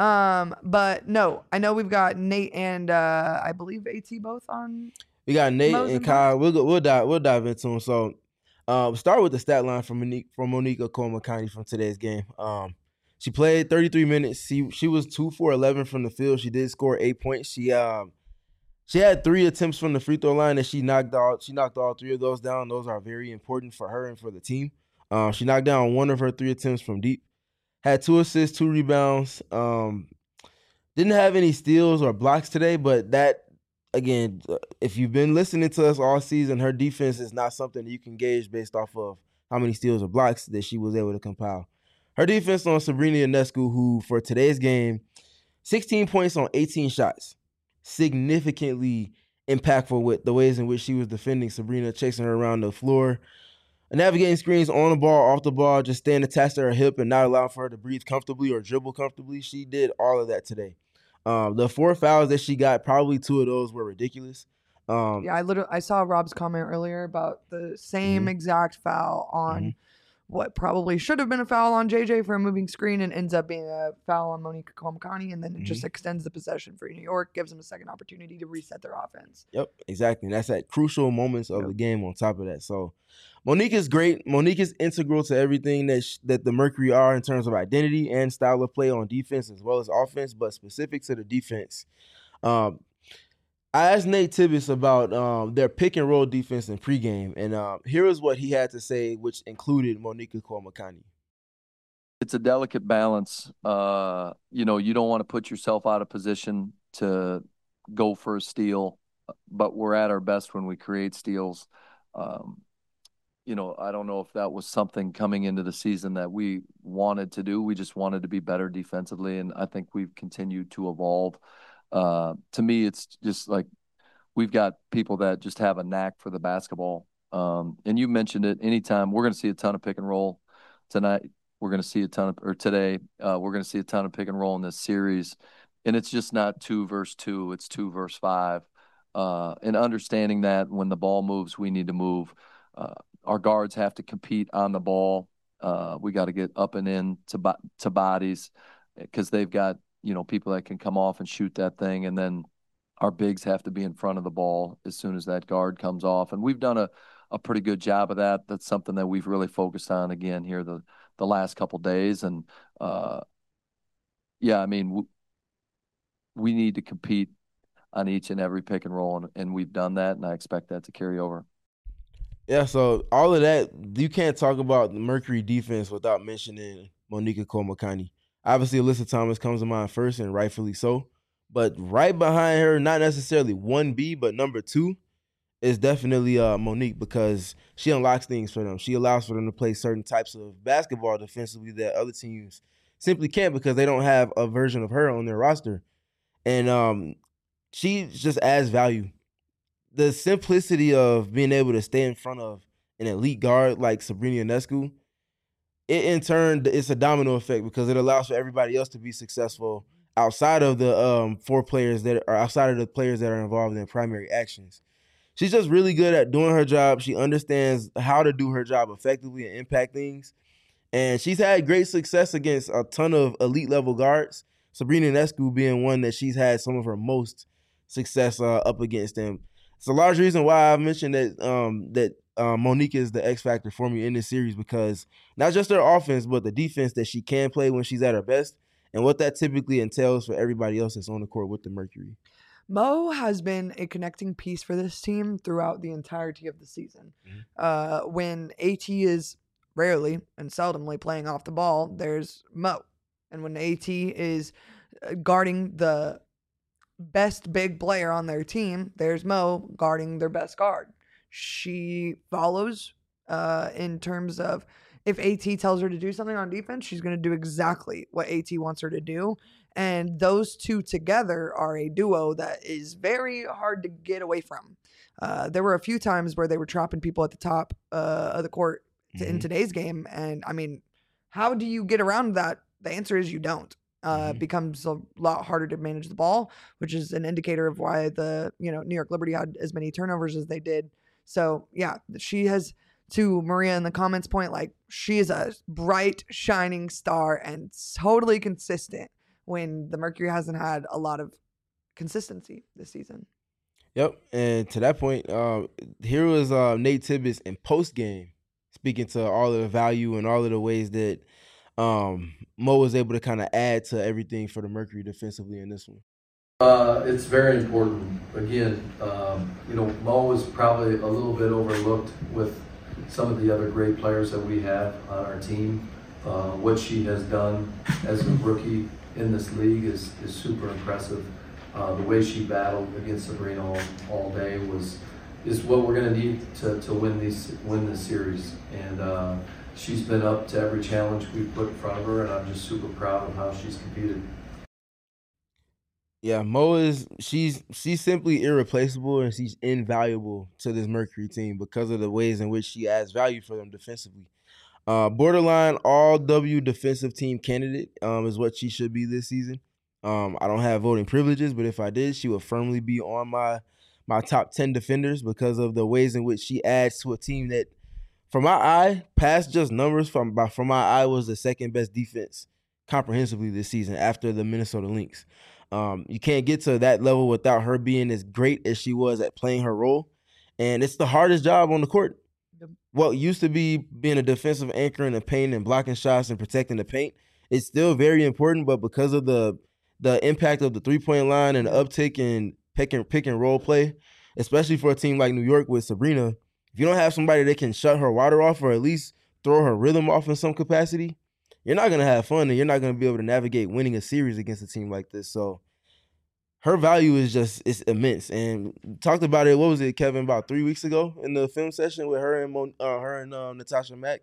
But no, I know we've got Nate and I believe AT both on. We got Nate and Kyle. We'll dive into them. So, start with the stat line from Monica Komakani from today's game. She played 33 minutes. She was 2 for 11 from the field. She did score 8 points. She had 3 attempts from the free throw line that she knocked out. She knocked all 3 of those down. Those are very important for her and for the team. She knocked down 1 of her 3 attempts from deep. Had 2 assists, 2 rebounds. Didn't have any steals or blocks today, but that, again, if you've been listening to us all season, her defense is not something that you can gauge based off of how many steals or blocks that she was able to compile. Her defense on Sabrina Ionescu, who for today's game, 16 points on 18 shots. Significantly impactful with the ways in which she was defending Sabrina, chasing her around the floor, navigating screens on the ball, off the ball, just staying attached to her hip and not allowing for her to breathe comfortably or dribble comfortably. She did all of that today. The 4 fouls that she got, probably 2 of those were ridiculous. I saw Rob's comment earlier about the same exact foul on what probably should have been a foul on JJ for a moving screen and ends up being a foul on Monica Komakani, and then it just extends the possession for New York, gives them a second opportunity to reset their offense. Yep, exactly. And that's at crucial moments of the game on top of that. So Monique is great. Monique is integral to everything that the Mercury are in terms of identity and style of play on defense as well as offense, but specific to the defense. I asked Nate Tibbetts about their pick and roll defense in pregame, and here is what he had to say, which included Monica Komakani. It's a delicate balance. You don't want to put yourself out of position to go for a steal, but we're at our best when we create steals. I don't know if that was something coming into the season that we wanted to do. We just wanted to be better defensively, and I think we've continued to evolve. To me, it's just like we've got people that just have a knack for the basketball. And you mentioned it. Anytime we're going to see a ton of pick and roll tonight, we're going to see today, we're going to see a ton of pick and roll in this series. And it's just not 2 versus 2. It's 2 versus 5. And understanding that when the ball moves, we need to move. Our guards have to compete on the ball. We got to get up and in to bodies because they've got, people that can come off and shoot that thing. And then our bigs have to be in front of the ball as soon as that guard comes off. And we've done a pretty good job of that. That's something that we've really focused on again here the last couple days. And we need to compete on each and every pick and roll. And we've done that. And I expect that to carry over. Yeah, so all of that, you can't talk about the Mercury defense without mentioning Monica Komakani. Obviously, Alyssa Thomas comes to mind first, and rightfully so. But right behind her, not necessarily 1B, but number 2 is definitely Monique, because she unlocks things for them. She allows for them to play certain types of basketball defensively that other teams simply can't because they don't have a version of her on their roster. And she just adds value. The simplicity of being able to stay in front of an elite guard like Sabrina Ionescu, in turn, it's a domino effect because it allows for everybody else to be successful outside of the 4 players that are outside of the players that are involved in primary actions. She's just really good at doing her job. She understands how to do her job effectively and impact things. And she's had great success against a ton of elite level guards, Sabrina Ionescu being one that she's had some of her most success up against them. It's a large reason why I've mentioned that Monique is the X factor for me in this series, because not just her offense, but the defense that she can play when she's at her best, and what that typically entails for everybody else that's on the court with the Mercury. Mo has been a connecting piece for this team throughout the entirety of the season. When AT is rarely and seldomly playing off the ball, there's Mo. And when AT is guarding the best big player on their team, there's Mo guarding their best guard. She follows in terms of if AT tells her to do something on defense, she's going to do exactly what AT wants her to do. And those two together are a duo that is very hard to get away from. There were a few times where they were trapping people at the top of the court in today's game. And I mean, how do you get around that? The answer is you don't. It becomes a lot harder to manage the ball, which is an indicator of why the New York Liberty had as many turnovers as they did. So yeah, she has, to Maria in the comments point, like, she is a bright, shining star and totally consistent when the Mercury hasn't had a lot of consistency this season. Yep, and to that point, here was Nate Tibbetts in post game speaking to all of the value and all of the ways that Mo was able to kind of add to everything for the Mercury defensively in this one. It's very important. Again, Mo is probably a little bit overlooked with some of the other great players that we have on our team. What she has done as a rookie in this league is super impressive. The way she battled against Sabrina all day is what we're going to need to win this series. And she's been up to every challenge we've put in front of her, and I'm just super proud of how she's competed. Yeah, Mo she's simply irreplaceable, and she's invaluable to this Mercury team because of the ways in which she adds value for them defensively. Borderline all-W defensive team candidate is what she should be this season. I don't have voting privileges, but if I did, she would firmly be on my top 10 defenders because of the ways in which she adds to a team that, from my eye, past just numbers, from my eye, was the second best defense comprehensively this season after the Minnesota Lynx. You can't get to that level without her being as great as she was at playing her role. And it's the hardest job on the court. What used to be being a defensive anchor in the paint and blocking shots and protecting the paint, it's still very important, but because of the impact of the three-point line and the uptick in pick and roll play, especially for a team like New York with Sabrina, if you don't have somebody that can shut her water off or at least throw her rhythm off in some capacity, you're not going to have fun and you're not going to be able to navigate winning a series against a team like this. So her value is immense. And talked about it, what was it, Kevin, about 3 weeks ago in the film session with her and Natasha Mack.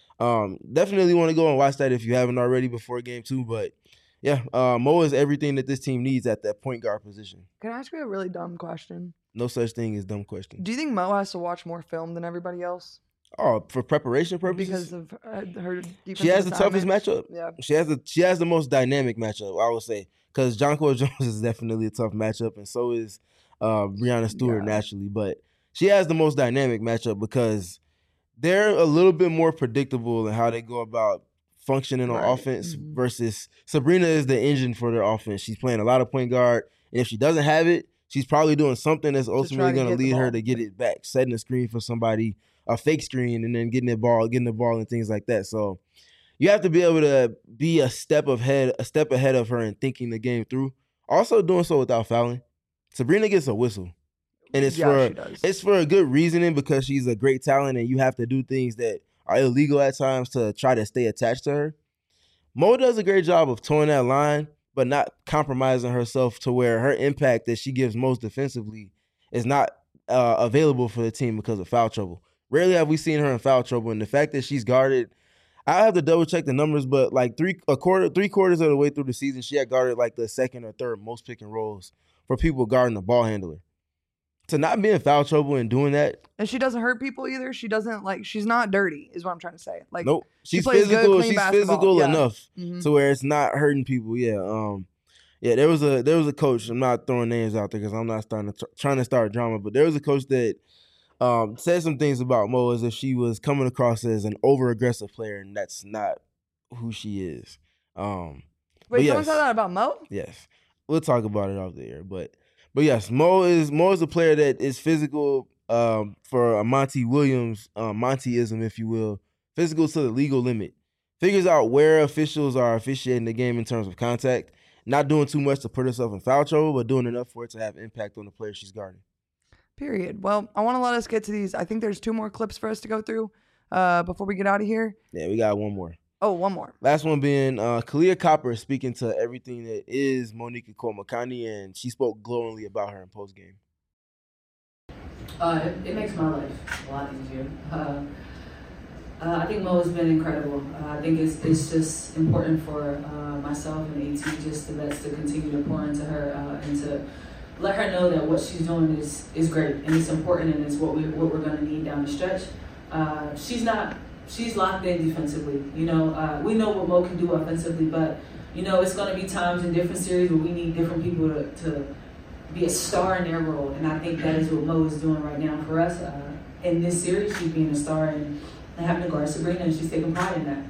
Definitely want to go and watch that if you haven't already before game 2. But yeah, Mo is everything that this team needs at that point guard position. Can I ask you a really dumb question? No such thing as dumb question. Do you think Mo has to watch more film than everybody else? Oh, for preparation purposes? Because of her defensive She has the toughest matchup. Yeah. She has the most dynamic matchup, I would say. Because Jonquel Jones is definitely a tough matchup, and so is Breanna Stewart naturally. But she has the most dynamic matchup because they're a little bit more predictable in how they go about functioning on offense versus Sabrina is the engine for their offense. She's playing a lot of point guard, and if she doesn't have it, she's probably doing something that's ultimately going to lead her to get it back, setting a screen for somebody, a fake screen, and then getting the ball and things like that. So you have to be able to be a step ahead of her in thinking the game through. Also doing so without fouling. Sabrina gets a whistle. And it's for a good reasoning because she's a great talent and you have to do things that are illegal at times to try to stay attached to her. Mo does a great job of towing that line, but not compromising herself to where her impact that she gives most defensively is not available for the team because of foul trouble. Rarely have we seen her in foul trouble, and the fact that she's guarded, I have to double check the numbers, but like three quarters of the way through the season, she had guarded like the second or third most pick and rolls for people guarding the ball handler. To not be in foul trouble and doing that. And she doesn't hurt people either. She doesn't she's not dirty is what I'm trying to say. Like, nope. She's physical. She's physical enough to where it's not hurting people. Yeah. There was a coach. I'm not throwing names out there because I'm not trying to start drama, but there was a coach that said some things about Mo as if she was coming across as an over-aggressive player, and that's not who she is. Wait, someone said that about Mo? Yes. We'll talk about it off the air, but yes, Mo is a player that is physical for a Monty Williams, Montyism, if you will, physical to the legal limit. figures out where officials are officiating the game in terms of contact, not doing too much to put herself in foul trouble, but doing enough for it to have impact on the player she's guarding. Period. Well, I want to let us get to these. I think there's 2 more clips for us to go through before we get out of here. Yeah, we got one more. Oh, one more. Last one being Kahleah Copper speaking to everything that is Monica Cole-Makani, and she spoke glowingly about her in postgame. It makes my life a lot easier. I think Mo has been incredible. I think it's just important for myself and AT, just the vets, to continue to pour into her and to let her know that what she's doing is great and it's important and it's what we're going to need down the stretch. She's locked in defensively. You know, we know what Mo can do offensively, but you know it's going to be times in different series where we need different people to be a star in their role, and I think that is what Mo is doing right now for us. In this series, she's being a star and having to guard Sabrina, and she's taking pride in that.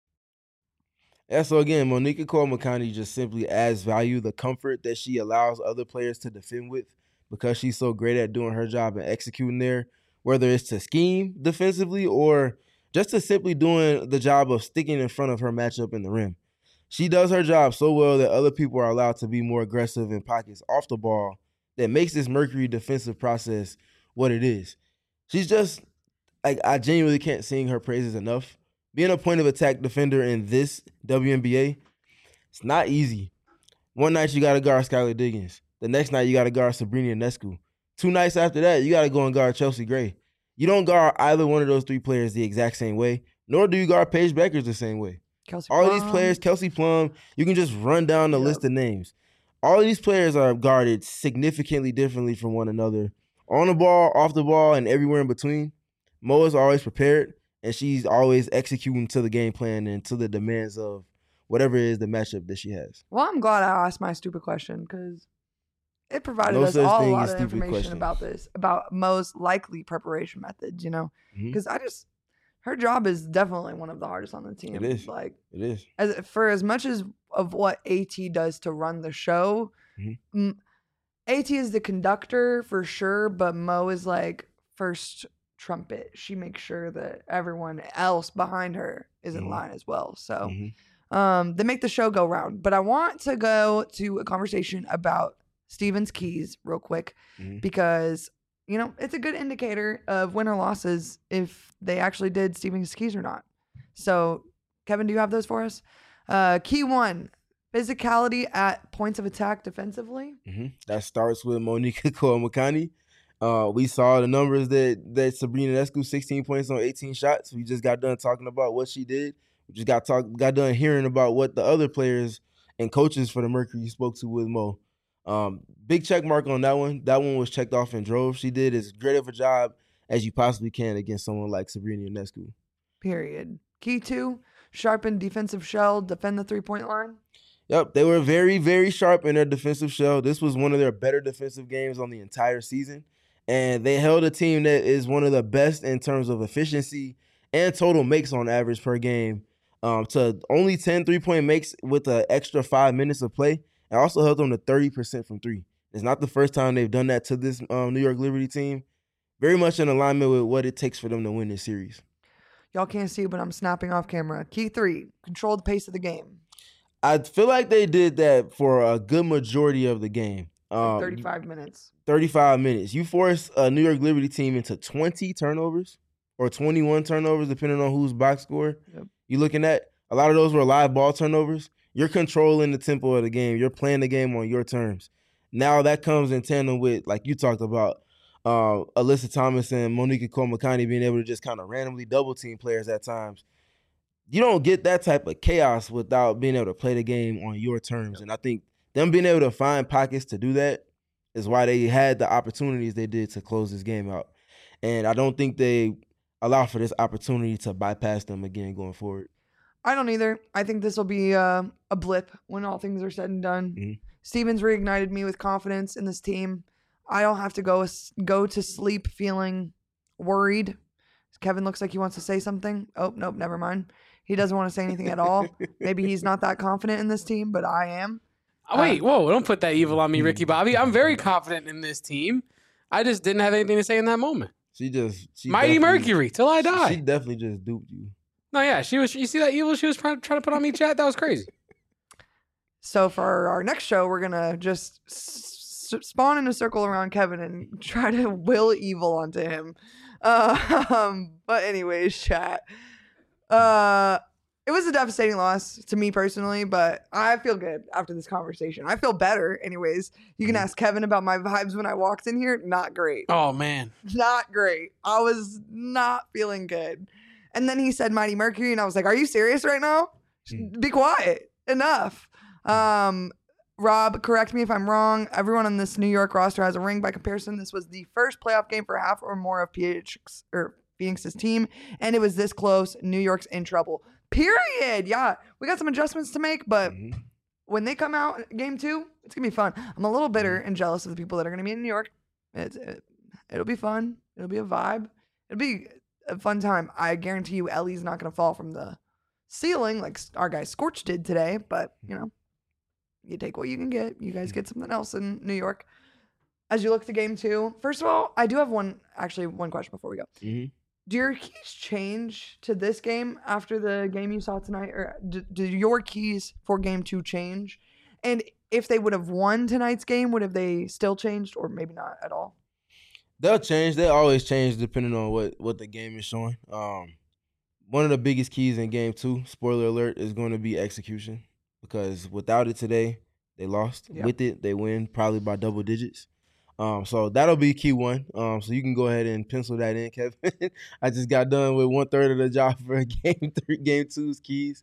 Yeah, so again, Monica Cole-Makani just simply adds value, the comfort that she allows other players to defend with, because she's so great at doing her job and executing there, whether it's to scheme defensively or just to simply doing the job of sticking in front of her matchup in the rim. She does her job so well that other people are allowed to be more aggressive in pockets off the ball that makes this Mercury defensive process what it is. She's just, like, I genuinely can't sing her praises enough. Being a point of attack defender in this WNBA, it's not easy. One night you got to guard Skylar Diggins. The next night you got to guard Sabrina Ionescu. 2 nights after that, you got to go and guard Chelsea Gray. You don't guard either one of those 3 players the exact same way, nor do you guard Paige Beckers the same way. All of these players, Kelsey Plum, you can just run down the list of names. All of these players are guarded significantly differently from one another. On the ball, off the ball, and everywhere in between. Mo is always prepared, and she's always executing to the game plan and to the demands of whatever is the matchup that she has. Well, I'm glad I asked my stupid question because it provided us all a lot of information about this, about Mo's likely preparation methods, you know? Because her job is definitely one of the hardest on the team. It is. Like, it is. For as much as of what AT does to run the show, AT is the conductor for sure, but Mo is like first trumpet. She makes sure that everyone else behind her is in line as well. So they make the show go round. But I want to go to a conversation about Stevens Keys real quick because, you know, it's a good indicator of win or losses if they actually did Stevens Keys or not. So, Kevin, do you have those for us? Key 1, physicality at points of attack defensively. That starts with Monica Cole-Makani. We saw the numbers that Sabrina Ionescu, 16 points on 18 shots. We just got done talking about what she did. We just got done hearing about what the other players and coaches for the Mercury spoke to with Mo. Big check mark on that one. That one was checked off in droves. She did as great of a job as you possibly can against someone like Sabrina Ionescu. Period. Key 2, sharpen defensive shell, defend the 3-point line. Yep, they were very, very sharp in their defensive shell. This was one of their better defensive games on the entire season. And they held a team that is one of the best in terms of efficiency and total makes on average per game to only 10 3-point makes with an extra 5 minutes of play. And also held them to 30% from 3. It's not the first time they've done that to this New York Liberty team. Very much in alignment with what it takes for them to win this series. Y'all can't see, but I'm snapping off camera. Key 3, control the pace of the game. I feel like they did that for a good majority of the game. 35 minutes. 35 minutes. You force a New York Liberty team into 20 turnovers or 21 turnovers, depending on who's box score you're looking at. A lot of those were live ball turnovers. You're controlling the tempo of the game. You're playing the game on your terms. Now that comes in tandem with, like you talked about, Alyssa Thomas and Monica Cole-Makani being able to just kind of randomly double team players at times. You don't get that type of chaos without being able to play the game on your terms. And I think them being able to find pockets to do that is why they had the opportunities they did to close this game out. And I don't think they allow for this opportunity to bypass them again going forward. I don't either. I think this will be a blip when all things are said and done. Stevens reignited me with confidence in this team. I don't have to go to sleep feeling worried. Kevin looks like he wants to say something. Oh, nope, never mind. He doesn't want to say anything at all. Maybe he's not that confident in this team, but I am. Wait, whoa, don't put that evil on me, Ricky Bobby. I'm very confident in this team. I just didn't have anything to say in that moment. She Mighty Mercury, till I die. She definitely just duped you. No, yeah, she was. You see that evil she was trying to put on me, chat? That was crazy. So for our next show, we're gonna just spawn in a circle around Kevin and try to will evil onto him. But anyways, chat. It was a devastating loss to me personally, but I feel good after this conversation. I feel better. Anyways, you can ask Kevin about my vibes when I walked in here. Not great. Oh man, not great. I was not feeling good. And then he said Mighty Mercury, and I was like, "Are you serious right now? Be quiet. Enough." Rob, correct me if I'm wrong. Everyone on this New York roster has a ring. By comparison, this was the first playoff game for half or more of Phoenix's team, and it was this close. New York's in trouble. Period. Yeah, we got some adjustments to make, but when they come out game 2, it's gonna be fun. I'm a little bitter and jealous of the people that are gonna be in New York. It'll be fun. It'll be a vibe. It'll be a fun time. I guarantee you, Ellie's not gonna fall from the ceiling like our guy Scorch did today, but you know, you take what you can get. You guys get something else in New York. As you look to game 2, first of all, I do have one question before we go. Do your keys change to this game after the game you saw tonight, or do your keys for game 2 change? And if they would have won tonight's game, would have they still changed, or maybe not at all? They'll change. They always change depending on what the game is showing. One of the biggest keys in game 2, spoiler alert, is going to be execution, because without it today, they lost. Yep. With it, they win probably by double digits. So that'll be key 1. So you can go ahead and pencil that in, Kevin. I just got done with 1/3 of the job for game 2's keys.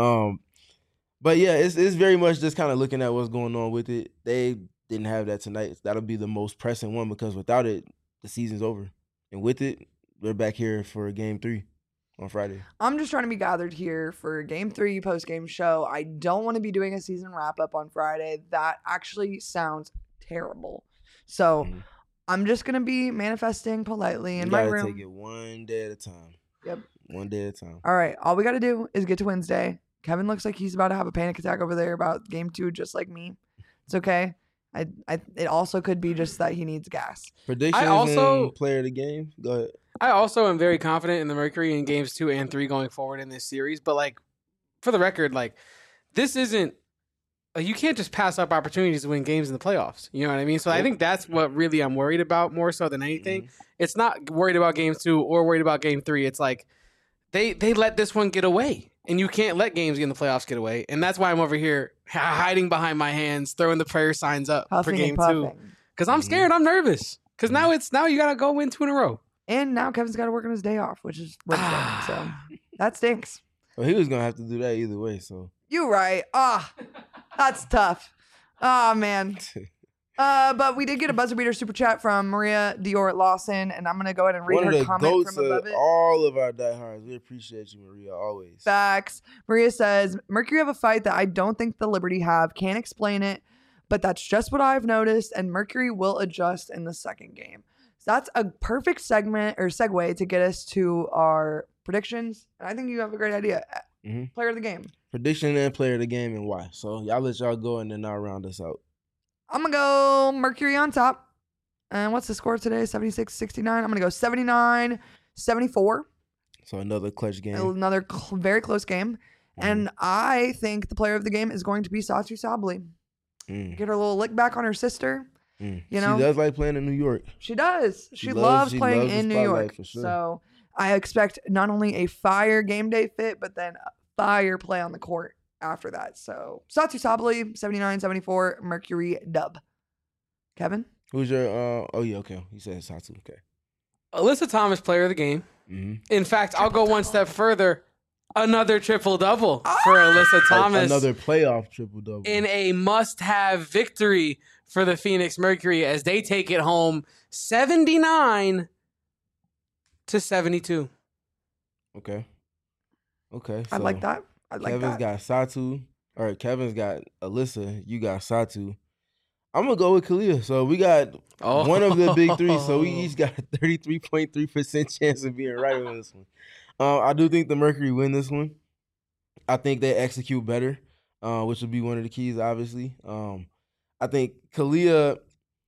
But yeah, it's very much just kind of looking at what's going on with it. They didn't have that tonight. That'll be the most pressing one, because without it, the season's over. And with it, we're back here for game 3 on Friday. I'm just trying to be gathered here for game 3 post-game show. I don't want to be doing a season wrap-up on Friday. That actually sounds terrible. So I'm just going to be manifesting politely in my room. Take it one day at a time. Yep. One day at a time. All right. All we got to do is get to Wednesday. Kevin looks like he's about to have a panic attack over there about game 2, just like me. It's okay. It also could be just that he needs gas. Predictions and player of the game. Go ahead. I also am very confident in the Mercury in games 2 and 3 going forward in this series. But like, for the record, like, this isn't. You can't just pass up opportunities to win games in the playoffs. You know what I mean? So I think that's what really I'm worried about more so than anything. It's not worried about game 2 or worried about game 3. It's like they let this one get away, and you can't let games in the playoffs get away. And that's why I'm over here hiding behind my hands, throwing the prayer signs up for game 2. Because I'm scared. I'm nervous. Because now you got to go win 2 in a row. And now Kevin's got to work on his day off, which is Wednesday. So that stinks. Well, he was going to have to do that either way, so. You right. That's tough. Oh, man. But we did get a buzzer beater super chat from Maria Dior Lawson, and I'm going to go ahead and read her comment from above it. All of our diehards. We appreciate you, Maria, always. Facts. Maria says, Mercury have a fight that I don't think the Liberty have. Can't explain it, but that's just what I've noticed, and Mercury will adjust in the second game. So that's a perfect segue to get us to our predictions, and I think you have a great idea. Player of the game. Prediction and player of the game, and why. So y'all let y'all go, and then I'll round us out. I'm going to go Mercury on top. And what's the score today? 76-69. I'm going to go 79-74. So another clutch game. Another very close game. And I think the player of the game is going to be Satou Sabally. Get her little lick back on her sister. You know? She does like playing in New York. She does. She loves playing in New York. For sure. So I expect not only a fire game day fit, but then a fire play on the court after that. So Satou Sabally, 79-74, Mercury dub. Kevin? Who's your okay. You said Satou. Okay. Alyssa Thomas, player of the game. In fact, I'll go one step further. Another triple-double for Alyssa Thomas. Another playoff triple-double. In a must-have victory for the Phoenix Mercury as they take it home 79-72. Okay. So I like that. Kevin's got Satou. Or Kevin's got Alyssa. You got Satou. I'm going to go with Kalia. So we got one of the big three. So we each got a 33.3% chance of being right on this one. I do think the Mercury win this one. I think they execute better, which will be one of the keys, obviously. I think Kalia,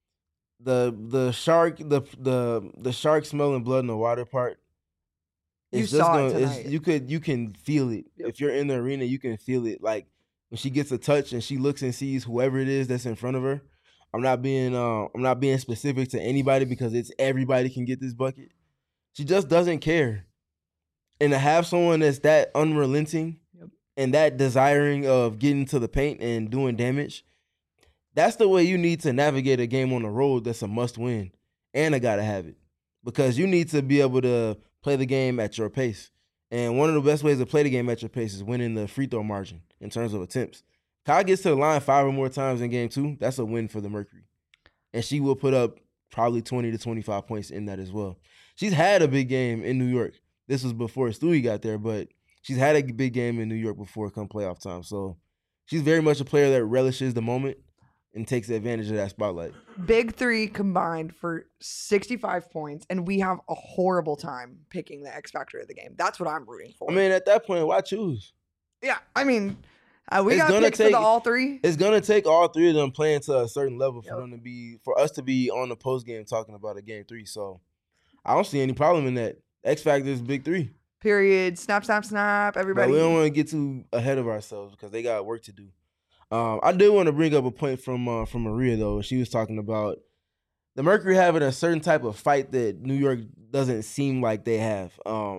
the shark smelling blood in the water part, You saw it tonight. You can feel it. Yep. If you're in the arena, you can feel it. Like when she gets a touch and she looks and sees whoever it is that's in front of her. I'm not being specific to anybody because it's everybody can get this bucket. She just doesn't care. And to have someone that's that unrelenting and that desiring of getting to the paint and doing damage, that's the way you need to navigate a game on the road that's a must win. And I gotta have it. Because you need to be able to play the game at your pace. And one of the best ways to play the game at your pace is winning the free throw margin in terms of attempts. Kai gets to the line 5 or more times in game 2. That's a win for the Mercury. And she will put up probably 20 to 25 points in that as well. She's had a big game in New York. This was before Stewie got there, but she's had a big game in New York before come playoff time. So she's very much a player that relishes the moment and takes advantage of that spotlight. Big 3 combined for 65 points, and we have a horrible time picking the X factor of the game. That's what I'm rooting for. I mean, at that point, why choose? Yeah, I mean, we got picks for the all 3. It's gonna take all 3 of them playing to a certain level for us to be on the post game talking about a game 3. So I don't see any problem in that. X factor is big 3. Period. Snap, snap, snap. Everybody. But we don't want to get too ahead of ourselves because they got work to do. I did want to bring up a point from Maria, though. She was talking about the Mercury having a certain type of fight that New York doesn't seem like they have.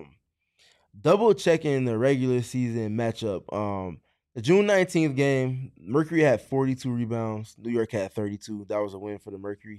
Double checking the regular season matchup. The June 19th game, Mercury had 42 rebounds. New York had 32. That was a win for the Mercury.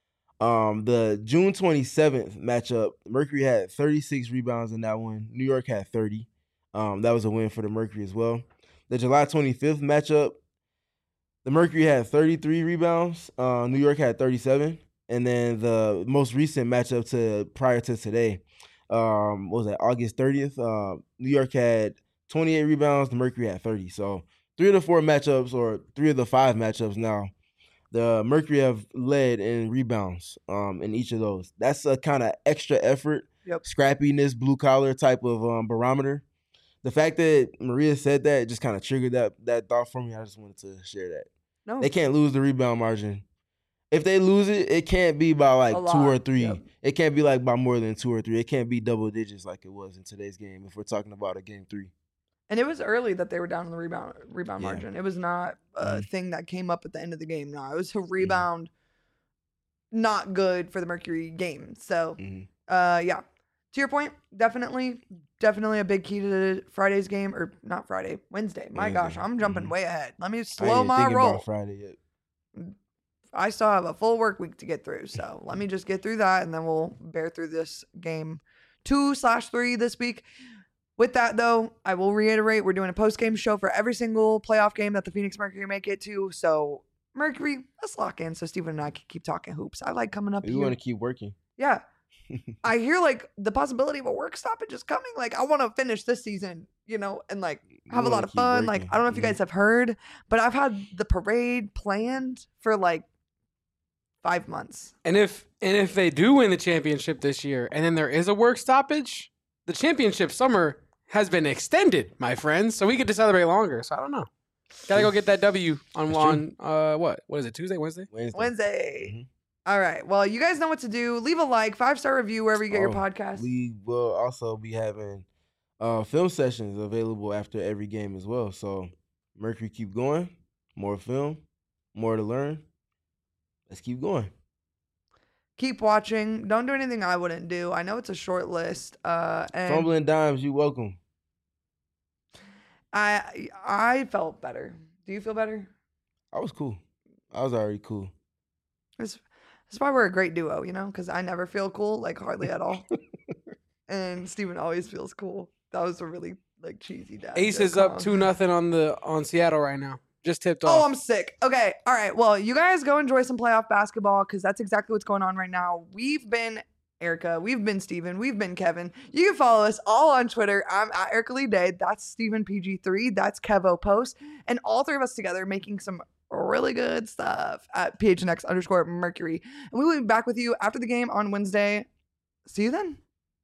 The June 27th matchup, Mercury had 36 rebounds in that one. New York had 30. That was a win for the Mercury as well. The July 25th matchup, the Mercury had 33 rebounds. New York had 37. And then the most recent matchup prior to today, what was that, August 30th? New York had 28 rebounds. The Mercury had 30. So 3 of the 4 matchups, or 3 of the 5 matchups now, the Mercury have led in rebounds in each of those. That's a kind of extra effort, scrappiness, blue-collar type of barometer. The fact that Maria said that just kind of triggered that thought for me. I just wanted to share that. No. They can't lose the rebound margin. If they lose it, it can't be by like 2 or 3. Yep. It can't be like by more than 2 or 3. It can't be double digits like it was in today's game if we're talking about a game 3. And it was early that they were down in the rebound margin. It was not a thing that came up at the end of the game. No, it was a rebound not good for the Mercury game. So, yeah. To your point, definitely a big key to Friday's game. Or not Friday, Wednesday. My gosh, I'm jumping way ahead. Let me slow my roll. About Friday yet. I still have a full work week to get through. So let me just get through that, and then we'll bear through this game 2/3 this week. With that, though, I will reiterate, we're doing a post-game show for every single playoff game that the Phoenix Mercury make it to. So, Mercury, let's lock in so Steven and I can keep talking hoops. I like coming up here. You want to keep working. Yeah. I hear, like, the possibility of a work stoppage is coming. Like, I want to finish this season, and, like, have a lot of fun. Working. Like, I don't know if you guys have heard, but I've had the parade planned for, like, 5 months. And if they do win the championship this year and then there is a work stoppage, the championship summer has been extended, my friends, so we get to celebrate longer. So I don't know. Gotta go get that W on what is it? Tuesday, Wednesday? Wednesday. Mm-hmm. All right. Well, you guys know what to do. Leave a like, 5-star review wherever you get your podcast. We will also be having film sessions available after every game as well. So Mercury, keep going. More film, more to learn. Let's keep going. Keep watching. Don't do anything I wouldn't do. I know it's a short list. And Fumbling Dimes, you welcome. I felt better. Do you feel better? I was cool. I was already cool. That's why we're a great duo, because I never feel cool, like hardly at all. And Steven always feels cool. That was a really cheesy dad. Ace is up 2-0 on Seattle right now. Just tipped off. Oh, I'm sick. Okay. All right. Well, you guys go enjoy some playoff basketball because that's exactly what's going on right now. We've been Erica. We've been Steven. We've been Kevin. You can follow us all on Twitter. I'm at Erica Lee Day. That's Steven PG3. That's Kevo Post. And all 3 of us together making some really good stuff at PHNX_Mercury. And we will be back with you after the game on Wednesday. See you then.